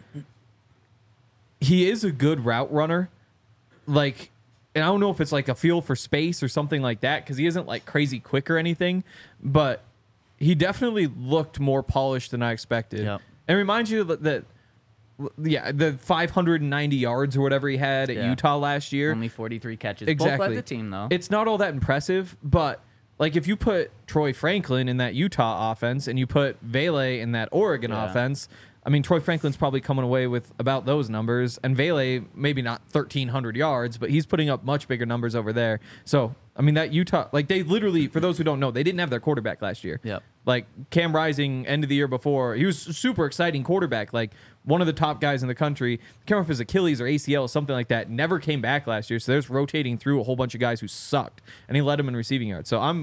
he is a good route runner. Like, and I don't know if it's like a feel for space or something like that because he isn't like crazy quick or anything, but he definitely looked more polished than I expected. Yep. And it reminds you that, that, yeah, the five hundred ninety yards or whatever he had at Yeah. Utah last year. Only forty-three catches. Exactly. Both led the team, though. It's not all that impressive, but like if you put Troy Franklin in that Utah offense and you put Vele in that Oregon Yeah. offense, I mean, Troy Franklin's probably coming away with about those numbers, and Vele maybe not thirteen hundred yards, but he's putting up much bigger numbers over there. So, I mean, that Utah, like they literally, for those who don't know, they didn't have their quarterback last year. Yep. Like Cam Rising, end of the year before, he was a super exciting quarterback, like one of the top guys in the country. I can't remember if his Achilles or A C L, something like that, never came back last year. So there's rotating through a whole bunch of guys who sucked, and he led them in receiving yards. So I'm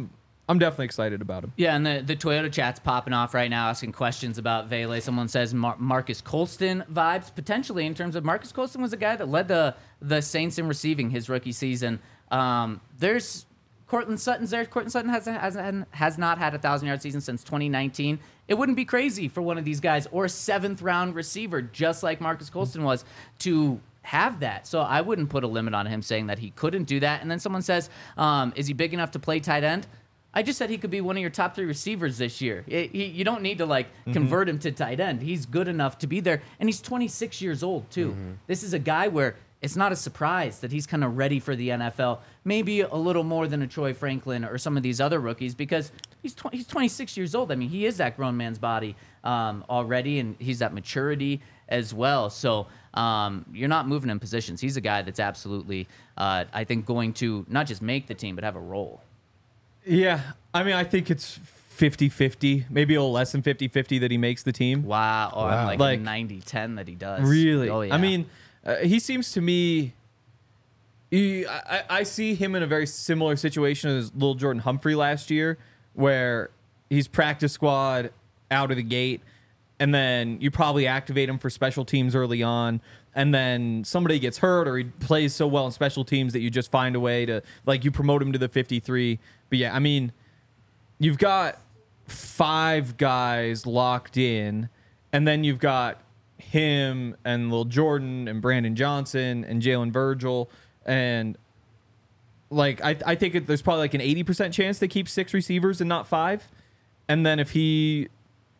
I'm definitely excited about him. Yeah, and the, the Toyota chat's popping off right now, asking questions about Vele. Someone says Mar- Marcus Colston vibes, potentially, in terms of Marcus Colston was a guy that led the, the Saints in receiving his rookie season. Um, there's Cortland Sutton's there. Cortland Sutton has, has, has not had a thousand-yard season since twenty nineteen. It wouldn't be crazy for one of these guys, or a seventh-round receiver, just like Marcus Colston was, to have that. So I wouldn't put a limit on him saying that he couldn't do that. And then someone says, um, is he big enough to play tight end? I just said he could be one of your top three receivers this year. It, he, you don't need to like mm-hmm. convert him to tight end. He's good enough to be there. And he's twenty-six years old, too. Mm-hmm. This is a guy where it's not a surprise that he's kind of ready for the N F L. Maybe a little more than a Troy Franklin or some of these other rookies, because he's tw- he's twenty-six years old. I mean, he is that grown man's body um, already, and he's that maturity as well. So um, you're not moving him positions. He's a guy that's absolutely, uh, I think, going to not just make the team, but have a role. Yeah, I mean, I think it's fifty-fifty, maybe a little less than fifty-fifty that he makes the team. Wow. Oh, Wow. I'm like, Like, ninety ten that he does. Really? Oh, yeah. I mean, uh, he seems to me... He, I, I see him in a very similar situation as Lil Jordan Humphrey last year, where he's practice squad out of the gate, and then you probably activate him for special teams early on, and then somebody gets hurt or he plays so well in special teams that you just find a way to, like, you promote him to the fifty-three. But yeah, I mean, you've got five guys locked in, and then you've got him and Lil Jordan and Brandon Johnson and Jalen Virgil. And like, I, I think it, there's probably like an eighty percent chance they keep six receivers and not five. And then if he,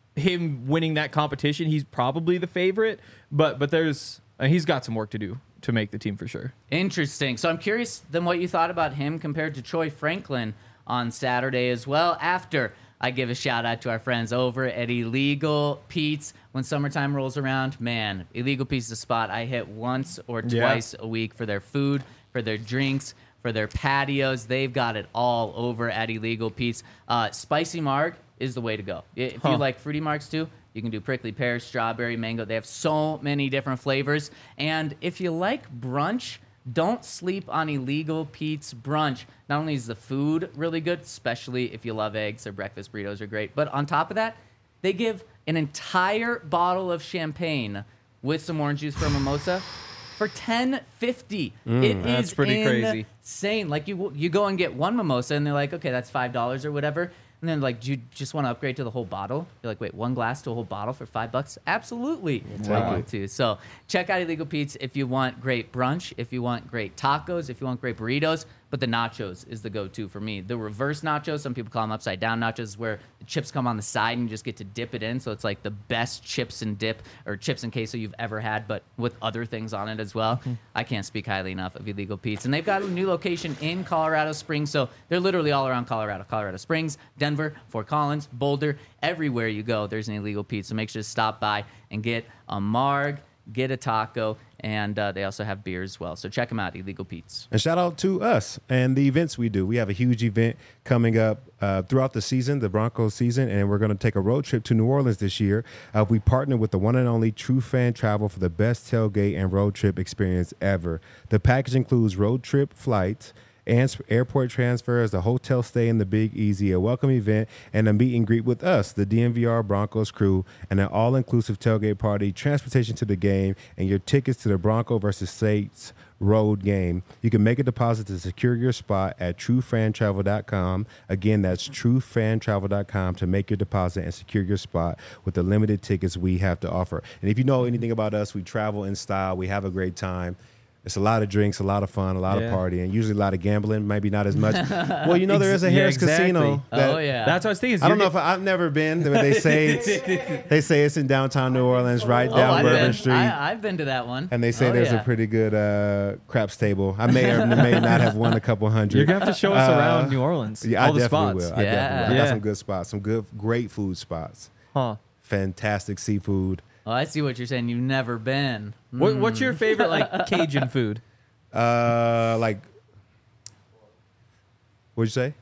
him winning that competition, he's probably the favorite. But but there's, uh, he's got some work to do to make the team for sure. Interesting. So I'm curious then what you thought about him compared to Troy Franklin on Saturday as well. After I give a shout out to our friends over at Illegal Pete's. When summertime rolls around, man, Illegal Pete's is a spot I hit once or twice yeah. a week for their food, for their drinks, for their patios. They've got it all over at Illegal Pete's. Uh, spicy marg is the way to go. If huh. you like fruity margs too, you can do prickly pear, strawberry, mango. They have so many different flavors. And if you like brunch, don't sleep on Illegal Pete's brunch. Not only is the food really good, especially if you love eggs, their breakfast burritos are great, but on top of that, they give an entire bottle of champagne with some orange juice for a mimosa for ten fifty. Mm, it that's is pretty crazy. Insane. Like you, you go and get one mimosa, and they're like, okay, that's five dollars or whatever. And then like, do you just want to upgrade to the whole bottle? You're like, wait, one glass to a whole bottle for five bucks? Absolutely, I want to. So check out Illegal Pete's if you want great brunch, if you want great tacos, if you want great burritos. But the nachos is the go-to for me. The reverse nachos, some people call them upside down nachos, is where the chips come on the side and you just get to dip it in. So it's like the best chips and dip or chips and queso you've ever had, but with other things on it as well. Mm-hmm. I can't speak highly enough of Illegal Pete's. And they've got a new location in Colorado Springs. So they're literally all around Colorado. Colorado Springs, Denver, Fort Collins, Boulder. Everywhere you go, there's an Illegal Pete's. So make sure to stop by and get a marg, get a taco, and uh, they also have beer as well. So check them out, Illegal Pete's. And shout out to us and the events we do. We have a huge event coming up uh, throughout the season, the Broncos season, and we're going to take a road trip to New Orleans this year. Uh, we partner with the one and only True Fan Travel for the best tailgate and road trip experience ever. The package includes road trip flights, and airport transfers, the hotel stay in the Big Easy, a welcome event, and a meet and greet with us, the D N V R Broncos crew, and an all-inclusive tailgate party, transportation to the game, and your tickets to the Bronco versus Saints road game. You can make a deposit to secure your spot at true fan travel dot com. Again, that's true fan travel dot com to make your deposit and secure your spot with the limited tickets we have to offer. And if you know anything about us, we travel in style. We have a great time. It's a lot of drinks, a lot of fun, a lot yeah. of partying, usually a lot of gambling, maybe not as much. Well, you know, there is a yeah, Harris exactly. Casino. That, Oh, yeah. That's what I was thinking. I don't know if I, I've never been. They say it's, they say it's in downtown New Orleans, right Oh, down I've Bourbon been, Street. I, I've been to that one. And they say Oh, there's yeah. a pretty good uh, craps table. I may or may not have won a couple hundred. You're going to have to show us Uh, around New Orleans. Yeah, all I the definitely spots. will. I Yeah. definitely will. I got Yeah. some good spots, some good, great food spots. Huh. Fantastic seafood. Oh, I see what you're saying. You've never been. What, what's your favorite, like, Cajun food? Uh, like, what'd you say?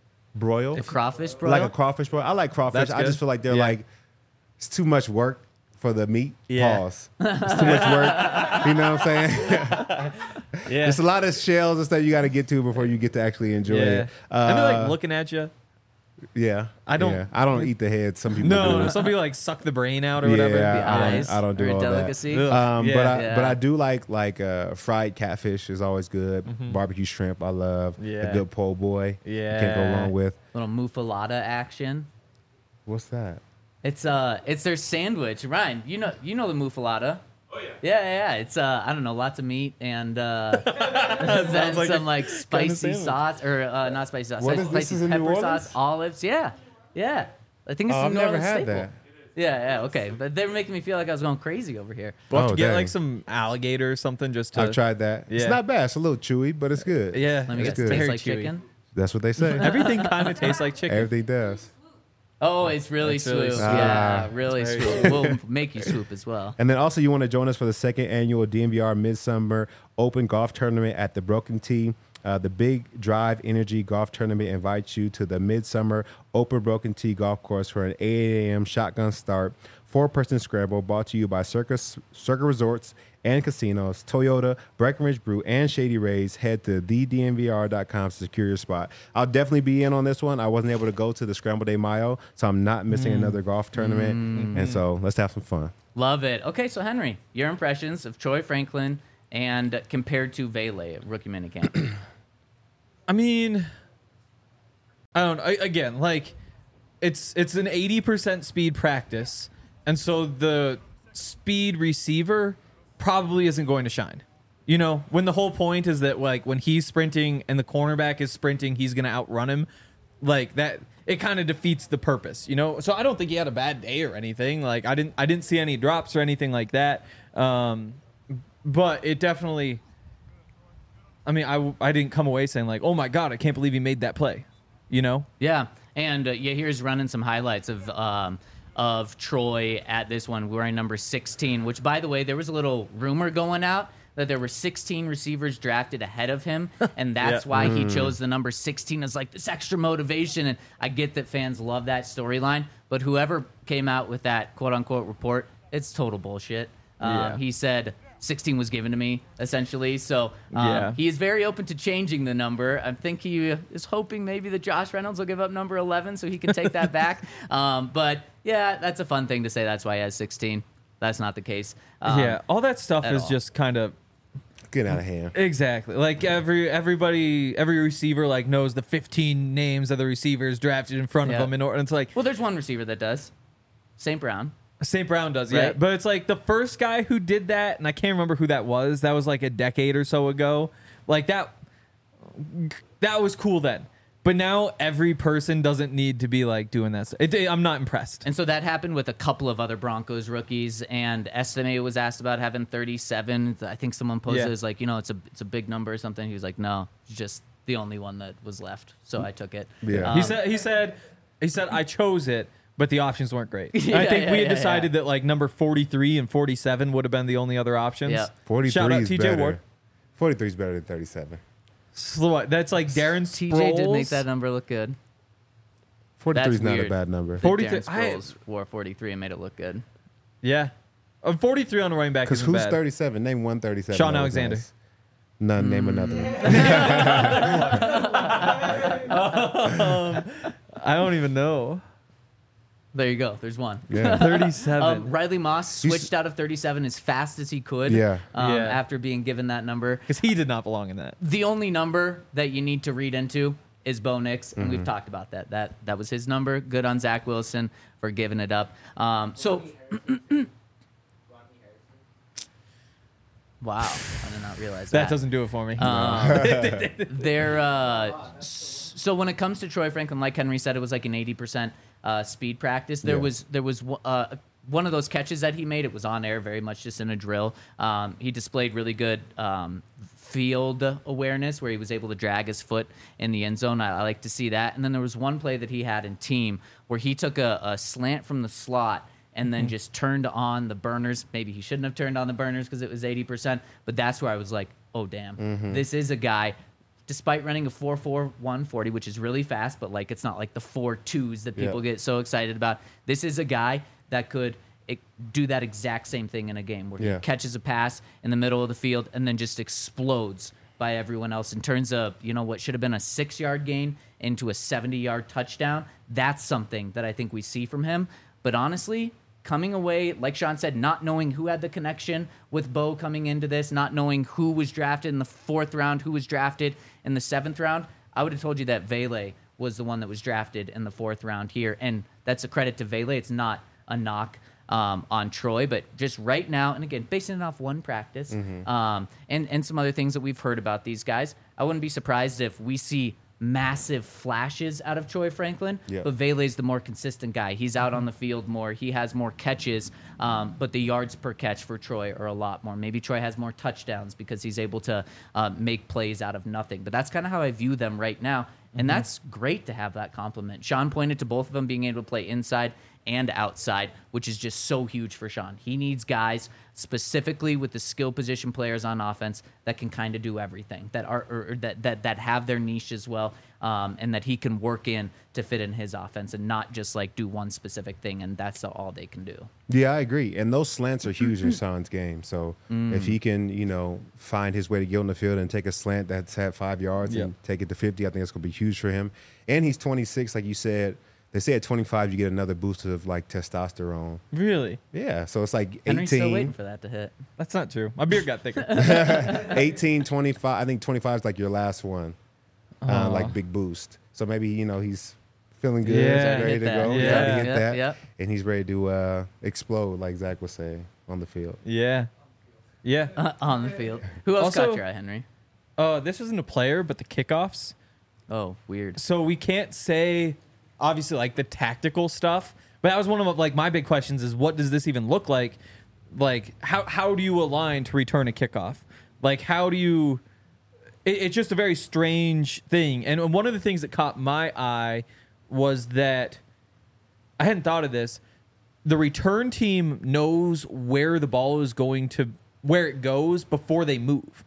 Broil? A crawfish broil? Like a crawfish broil. I like crawfish. That's I just good. feel like they're Yeah. like, it's too much work for the meat. Yeah. Pause. It's too much work. You know what I'm saying? Yeah. There's a lot of shells and stuff you got to get to before you get to actually enjoy yeah. it. Uh, and they're like looking at you. Yeah. I don't- yeah. I don't eat the head. Some people do. No, some people like suck the brain out or Yeah, whatever. The I don't- eyes I don't do are a all that. delicacy. Ugh. Um, Yeah. but I Yeah. but I do like like uh, fried catfish is always good. Barbecue shrimp I love. Yeah. A good po' boy. Yeah. Can't go wrong with. Little muffalata action. What's that? It's uh, it's their sandwich. Ryan, you know, you know the muffalata. Oh yeah. Yeah, yeah, yeah. It's uh, I don't know, lots of meat and uh, then like some a like spicy sandwich. sauce or uh, not spicy sauce. What like is this? spicy Is in New pepper Orleans? sauce, olives. Yeah, yeah. I think it's Oh, a I've New never Orleans had staple. that. Yeah, yeah, okay. But they were making me feel like I was going crazy over here. We'll have Oh, to get dang. like some alligator or something just to. I've tried that. It's Yeah. not bad. It's a little chewy, but it's good. Yeah, Let me It's guess, good. tastes Very like chewy. chicken. That's what they say. Everything kind of tastes like chicken. Everything does. Oh, it's really It's really swoop. swoop. Yeah, Ah. really It's very swoop. We'll make you swoop as well. And then also, you want to join us for the second annual D N V R Midsummer Open Golf Tournament at the Broken Tee. Uh, the Big Drive Energy Golf Tournament invites you to the Midsummer Open Broken Tee Golf Course for an eight a.m. shotgun start, four-person scramble brought to you by Circus, Circa Resorts and Casinos, Toyota, Breckenridge Brew, and Shady Rays. Head to the d n v r dot com to secure your spot. I'll definitely be in on this one. I wasn't able to go to the Scramble Day Mayo, so I'm not missing another golf tournament. And so let's have some fun. Love it. Okay, so Henry, your impressions of Troy Franklin and compared to Vele at rookie minicamp. I mean, I don't. I, again, like it's it's an eighty percent speed practice, and so the speed receiver probably isn't going to shine. You know, when the whole point is that like when he's sprinting and the cornerback is sprinting, he's going to outrun him. Like that, it kind of defeats the purpose. You know, so I don't think he had a bad day or anything. Like I didn't I didn't see any drops or anything like that. Um, but it definitely. I mean, I, I didn't come away saying like, oh my God, I can't believe he made that play. You know? Yeah, and uh, yeah, here's running some highlights of um, of Troy at this one wearing number sixteen. Which, by the way, there was a little rumor going out that there were sixteen receivers drafted ahead of him, and that's Yeah. why he chose the number sixteen as like this extra motivation. And I get that fans love that storyline, but whoever came out with that quote unquote report, it's total bullshit. Um, Yeah. He said sixteen was given to me, essentially. So um, Yeah. he is very open to changing the number. I think he is hoping maybe that Josh Reynolds will give up number eleven so he can take that back. Um, but yeah, that's a fun thing to say. That's why he has sixteen. That's not the case. Um, Yeah. All that stuff at is all. just kind of. Get out of hand. Exactly. Like every everybody, every receiver like knows the fifteen names of the receivers drafted in front Yeah. of them in order. And it's like Well, there's one receiver that does. Saint Brown. Saint Brown does, yeah. Right. But it's like the first guy who did that, and I can't remember who that was. That was like a decade or so ago. Like that, that was cool then. But now every person doesn't need to be like doing that. It, I'm not impressed. And so that happened with a couple of other Broncos rookies. And Estime was asked about having thirty-seven. I think someone posted Yeah. as like, you know, it's a it's a big number or something. He was like, no, it's just the only one that was left. So I took it. Yeah. Um, He said he said he said I chose it, but the options weren't great. Yeah, I think yeah, we had yeah, decided yeah. that like number forty-three and forty-seven would have been the only other options. Yeah. forty-three Shout out is T J better. Ward. forty-three is better than thirty-seven. So what? That's like Darren Sproles. T J did make that number look good. forty-three is That's not a weird. bad number. That forty-three Darren I- Sproles wore forty-three and made it look good. Yeah. Uh, forty-three on the running back Because isn't who's bad. thirty-seven? Name one thirty-seven. Sean that was Alexander. nice. None. Name another one. I don't even know. There you go. There's one. Yeah. thirty-seven. Um, Riley Moss He's- switched out of thirty-seven as fast as he could. Yeah. Um, Yeah. After being given that number. Because he did not belong in that. The only number that you need to read into is Bo Nix, and we've talked about that. That that was his number. Good on Zach Wilson for giving it up. Um, so, wow, I did not realize that. That doesn't do it for me. They're uh, s- so when it comes to Troy Franklin, like Henry said, it was like an eighty percent uh, speed practice. There Yeah. was there was uh, one of those catches that he made. It was on air, very much just in a drill. Um, he displayed really good um, field awareness, where he was able to drag his foot in the end zone. I, I like to see that. And then there was one play that he had in team where he took a, a slant from the slot and then just turned on the burners. Maybe he shouldn't have turned on the burners because it was eighty percent, but that's where I was like, oh, damn. This is a guy, despite running a four four one forty, which is really fast, but like it's not like the four twos that people Yeah. get so excited about. This is a guy that could, it, do that exact same thing in a game where Yeah. he catches a pass in the middle of the field and then just explodes by everyone else and turns a, you know, what should have been a six-yard gain into a seventy-yard touchdown. That's something that I think we see from him. But honestly, coming away, like Sean said, not knowing who had the connection with Bo coming into this, not knowing who was drafted in the fourth round, who was drafted in the seventh round, I would have told you that Vele was the one that was drafted in the fourth round here. And that's a credit to Vele. It's not a knock um, on Troy, but just right now, and again, basing it off one practice Mm-hmm. um, and, and some other things that we've heard about these guys, I wouldn't be surprised if we see massive flashes out of Troy Franklin, Yeah. but Vele's the more consistent guy. He's out on the field more. He has more catches, um, but the yards per catch for Troy are a lot more. Maybe Troy has more touchdowns because he's able to uh, make plays out of nothing. But that's kind of how I view them right now, and that's great to have that compliment. Sean pointed to both of them being able to play inside and outside, which is just so huge for Sean. He needs guys specifically with the skill position players on offense that can kind of do everything, that are or, or that, that that have their niche as well, um, and that he can work in to fit in his offense and not just like do one specific thing and that's all they can do. Yeah, I agree. And those slants are huge in Sean's game. So Mm. if he can, you know, find his way to get on the field and take a slant that's had five yards Yep. and take it to fifty, I think it's going to be huge for him. And he's twenty-six, like you said. They say at twenty-five you get another boost of like testosterone. Really? Yeah, so it's like Henry's still waiting eighteen, for that to hit. That's not true. My beard got thicker. eighteen, twenty-five. I think twenty-five is like your last one, uh, Aw. like big boost. So maybe, you know, he's feeling good, Yeah. he's ready Hit to that. go. He's Yeah. already hit Yep, that, yep. and he's ready to uh, explode, like Zach was saying, on the field. Yeah. Yeah. Uh, on the field. Who else Also- caught your eye, Henry? Uh, this isn't a player, but the kickoffs. Oh, weird. So we can't say, obviously, like the tactical stuff. But that was one of like my big questions: is what does this even look like? Like how how do you align to return a kickoff? Like how do you? It, it's just a very strange thing. And one of the things that caught my eye was that I hadn't thought of this. The return team knows where the ball is going to, where it goes before they move.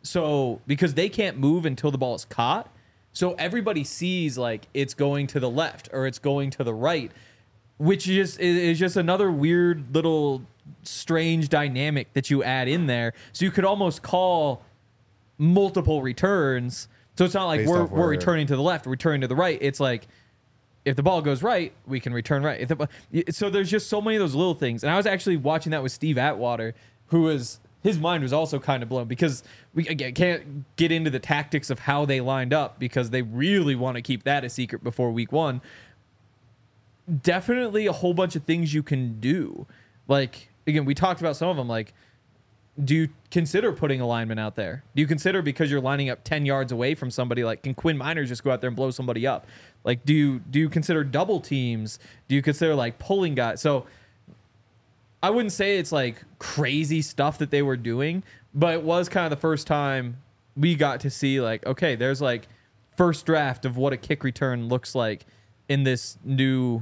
So because they can't move until the ball is caught. So everybody sees like it's going to the left or it's going to the right, which is is just another weird little strange dynamic that you add in there. So you could almost call multiple returns. So it's not like Based we're off we're where- returning to the left, returning to the right. It's like if the ball goes right, we can return right. If the, so there's just so many of those little things. And I was actually watching that with Steve Atwater, who was his mind was also kind of blown because we again can't get into the tactics of how they lined up because they really want to keep that a secret before week one. Definitely a whole bunch of things you can do. Like, again, we talked about some of them. Like, do you consider putting a lineman out there? Do you consider because you're lining up ten yards away from somebody, like, can Quinn Miners just go out there and blow somebody up? Like, do you do you consider double teams? Do you consider, like, pulling guys? So I wouldn't say it's, like, crazy stuff that they were doing, but it was kind of the first time we got to see, like, okay, there's, like, first draft of what a kick return looks like in this new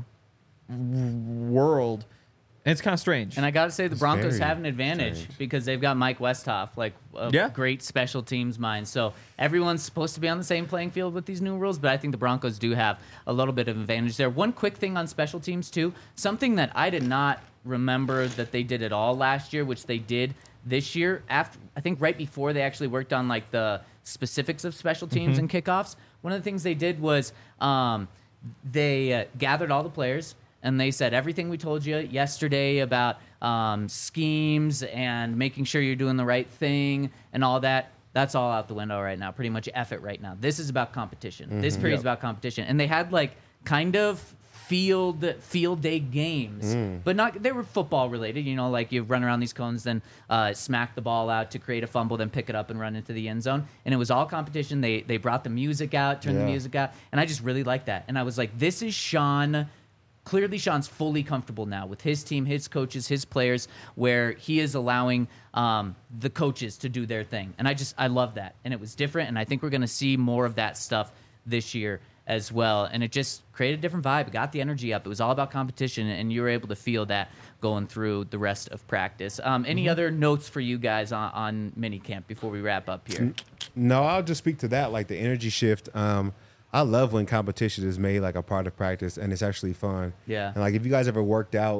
world. And it's kind of strange. And I got to say, the It's Broncos very have an advantage strange. because they've got Mike Westhoff, like a Yeah. great special teams mind. So everyone's supposed to be on the same playing field with these new rules, but I think the Broncos do have a little bit of advantage there. One quick thing on special teams, too, something that I did not remember that they did at all last year, which they did this year. After I think right before they actually worked on like the specifics of special teams and kickoffs, one of the things they did was um, they uh, gathered all the players. And they said everything we told you yesterday about um, schemes and making sure you're doing the right thing and all that, that's all out the window right now. Pretty much F it right now. This is about competition. This period is about competition. And they had like kind of field field day games, but not they were football related. You know, like you run around these cones, then uh, smack the ball out to create a fumble, then pick it up and run into the end zone. And it was all competition. They they brought the music out, turned the Yeah. music out, and I just really liked that. And I was like, this is Sean. Clearly, Sean's fully comfortable now with his team, his coaches, his players, where he is allowing um, the coaches to do their thing. And I just, I love that. And it was different. And I think we're going to see more of that stuff this year as well. And it just created a different vibe. It got the energy up. It was all about competition. And you were able to feel that going through the rest of practice. Um, any other notes for you guys on, on minicamp before we wrap up here? No, I'll just speak to that, like the energy shift. Um, I love when competition is made like a part of practice and it's actually fun. Yeah. And like if you guys ever worked out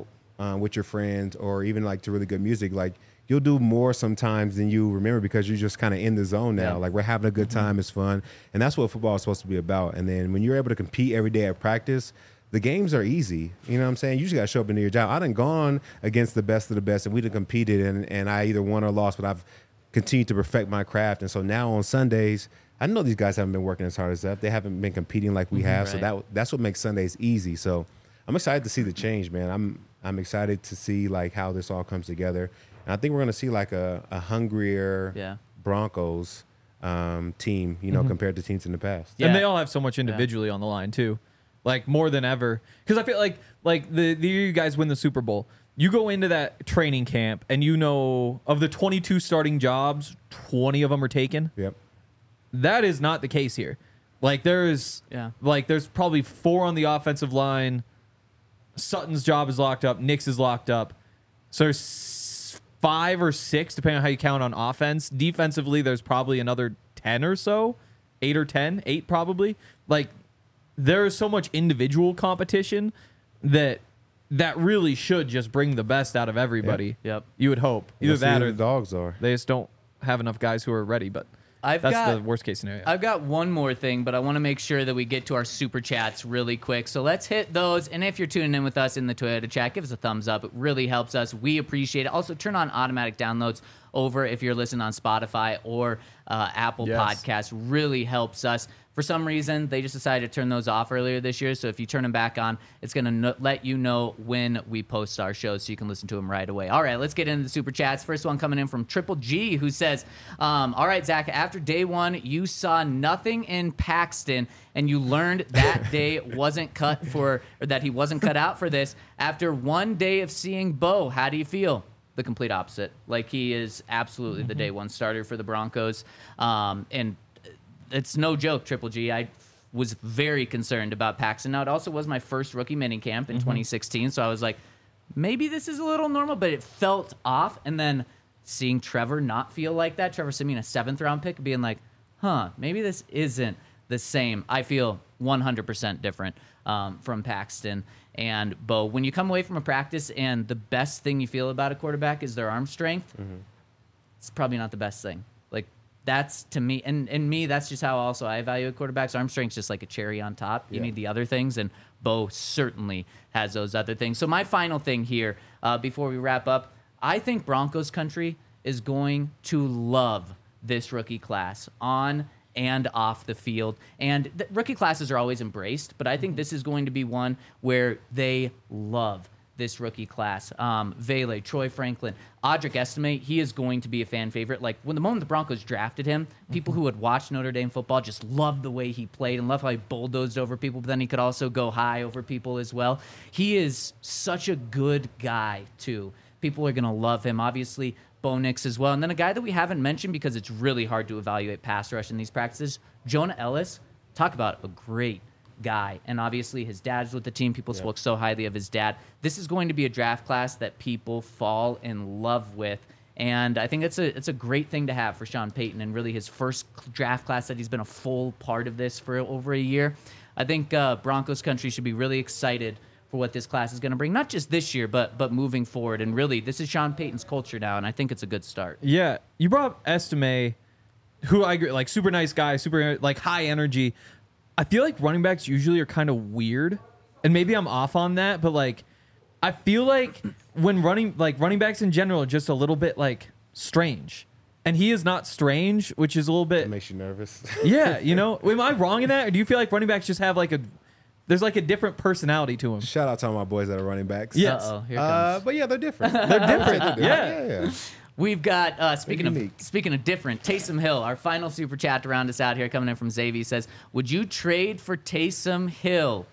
uh, with your friends or even like to really good music, like you'll do more sometimes than you remember because you're just kind of in the zone now. Yeah. Like we're having a good time, it's fun, and that's what football is supposed to be about. And then when you're able to compete every day at practice, the games are easy. You know what I'm saying? You just got to show up and do your job. I done gone against the best of the best, and we done competed, and, and I either won or lost, but I've continued to perfect my craft. And so now on Sundays, I know these guys haven't been working as hard as that. They haven't been competing like we have, so Right. that that's what makes Sundays easy. So I'm excited to see the change, man. I'm I'm excited to see like how this all comes together. And I think we're going to see like a, a hungrier Yeah. Broncos um, team, you know, compared to teams in the past. Yeah. And they all have so much individually on the line too, like more than ever. Because I feel like like the the year you guys win the Super Bowl, you go into that training camp and you know of the twenty-two starting jobs, twenty of them are taken. Yep. That is not the case here. Like there's Yeah. like there's probably four on the offensive line. Sutton's job is locked up. Nick's is locked up. So there's five or six, depending on how you count on offense. Defensively, there's probably another ten or so, eight or ten, eight probably. Like there is so much individual competition that that really should just bring the best out of everybody. Yep. You would hope either Let's see that who or the dogs are. they just don't have enough guys who are ready. But I've that's got the worst case scenario. I've got one more thing, but I want to make sure that we get to our super chats really quick. So let's hit those. And if you're tuning in with us in the Toyota chat, give us a thumbs up. It really helps us. We appreciate it. Also, turn on automatic downloads over if you're listening on Spotify or uh, Apple Yes. Podcasts. Really helps us. For some reason, they just decided to turn those off earlier this year. So if you turn them back on, it's going to no- let you know when we post our shows so you can listen to them right away. All right, let's get into the super chats. First one coming in from Triple G, who says, um, all right, Zach, after day one, you saw nothing in Paxton and you learned that day wasn't cut for, or that he wasn't cut out for this. After one day of seeing Bo, how do you feel? The complete opposite. Like he is absolutely the day one starter for the Broncos. Um, and it's no joke, Triple G. I was very concerned about Paxton. Now, it also was my first rookie minicamp in twenty sixteen, so I was like, maybe this is a little normal, but it felt off. And then seeing Trevor not feel like that, Trevor Siemian, a seventh-round pick, being like, huh, maybe this isn't the same. I feel one hundred percent different um, from Paxton and Bo. When you come away from a practice and the best thing you feel about a quarterback is their arm strength, it's probably not the best thing. Like, that's to me, and, and me, that's just how also I evaluate quarterbacks. Arm strength's just like a cherry on top. You Yeah. need the other things, and Bo certainly has those other things. So my final thing here, uh, before we wrap up, I think Broncos country is going to love this rookie class on and off the field. And the rookie classes are always embraced, but I think this is going to be one where they love this rookie class. Um, Vele, Troy Franklin, Audric Estime, he is going to be a fan favorite. Like, when the moment the Broncos drafted him, people who had watched Notre Dame football just loved the way he played and loved how he bulldozed over people, but then he could also go high over people as well. He is such a good guy, too. People are going to love him. Obviously, Bo Nix as well. And then a guy that we haven't mentioned because it's really hard to evaluate pass rush in these practices, Jonah Ellis. Talk about a great guy. And obviously his dad's with the team. People spoke so highly of his dad. This is going to be a draft class that people fall in love with. And I think it's a it's a great thing to have for Sean Payton, and really his first draft class that he's been a full part of this for over a year. I think uh, Broncos country should be really excited for what this class is going to bring, not just this year, but but moving forward. And really, this is Sean Payton's culture now, and I think it's a good start. Yeah, you brought up Estime, who I agree, like super nice guy, super like high energy. I feel like running backs usually are kind of weird, and maybe I'm off on that, but like I feel like when running like running backs in general are just a little bit like strange, and he is not strange, which is a little bit It makes you nervous. yeah. You know, am I wrong in that, or do you feel like running backs just have like a there's like a different personality to them? Shout out to all my boys that are running backs. Yes. Uh-oh, here Uh, comes. but yeah, they're different. They're different. They're Yeah. different. yeah, yeah. We've got uh, speaking of unique. speaking of different, Taysom Hill, our final super chat to round us out here, coming in from Xavier, says, "Would you trade for Taysom Hill?"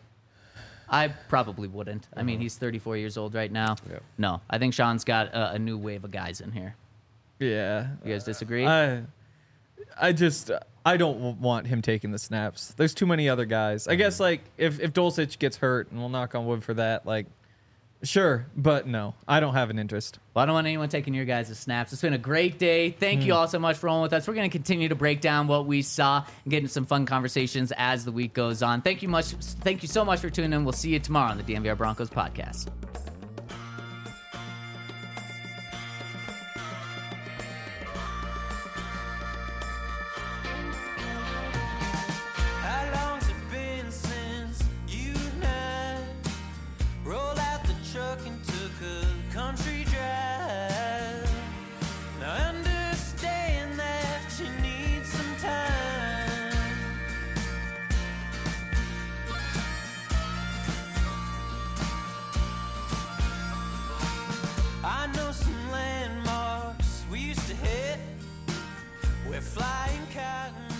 I probably wouldn't. I mean, he's thirty-four years old right now. Yep. No, I think Sean's got a, a new wave of guys in here. Yeah. You guys disagree? I, I just I don't w- want him taking the snaps. There's too many other guys. I guess like if if Dulcich gets hurt, and we'll knock on wood for that, like sure, but no, I don't have an interest. Well, I don't want anyone taking your guys' snaps. It's been a great day. Thank you all so much for rolling with us. We're going to continue to break down what we saw and get into some fun conversations as the week goes on. Thank you much. Thank you so much for tuning in. We'll see you tomorrow on the D N V R Broncos podcast. flying cotton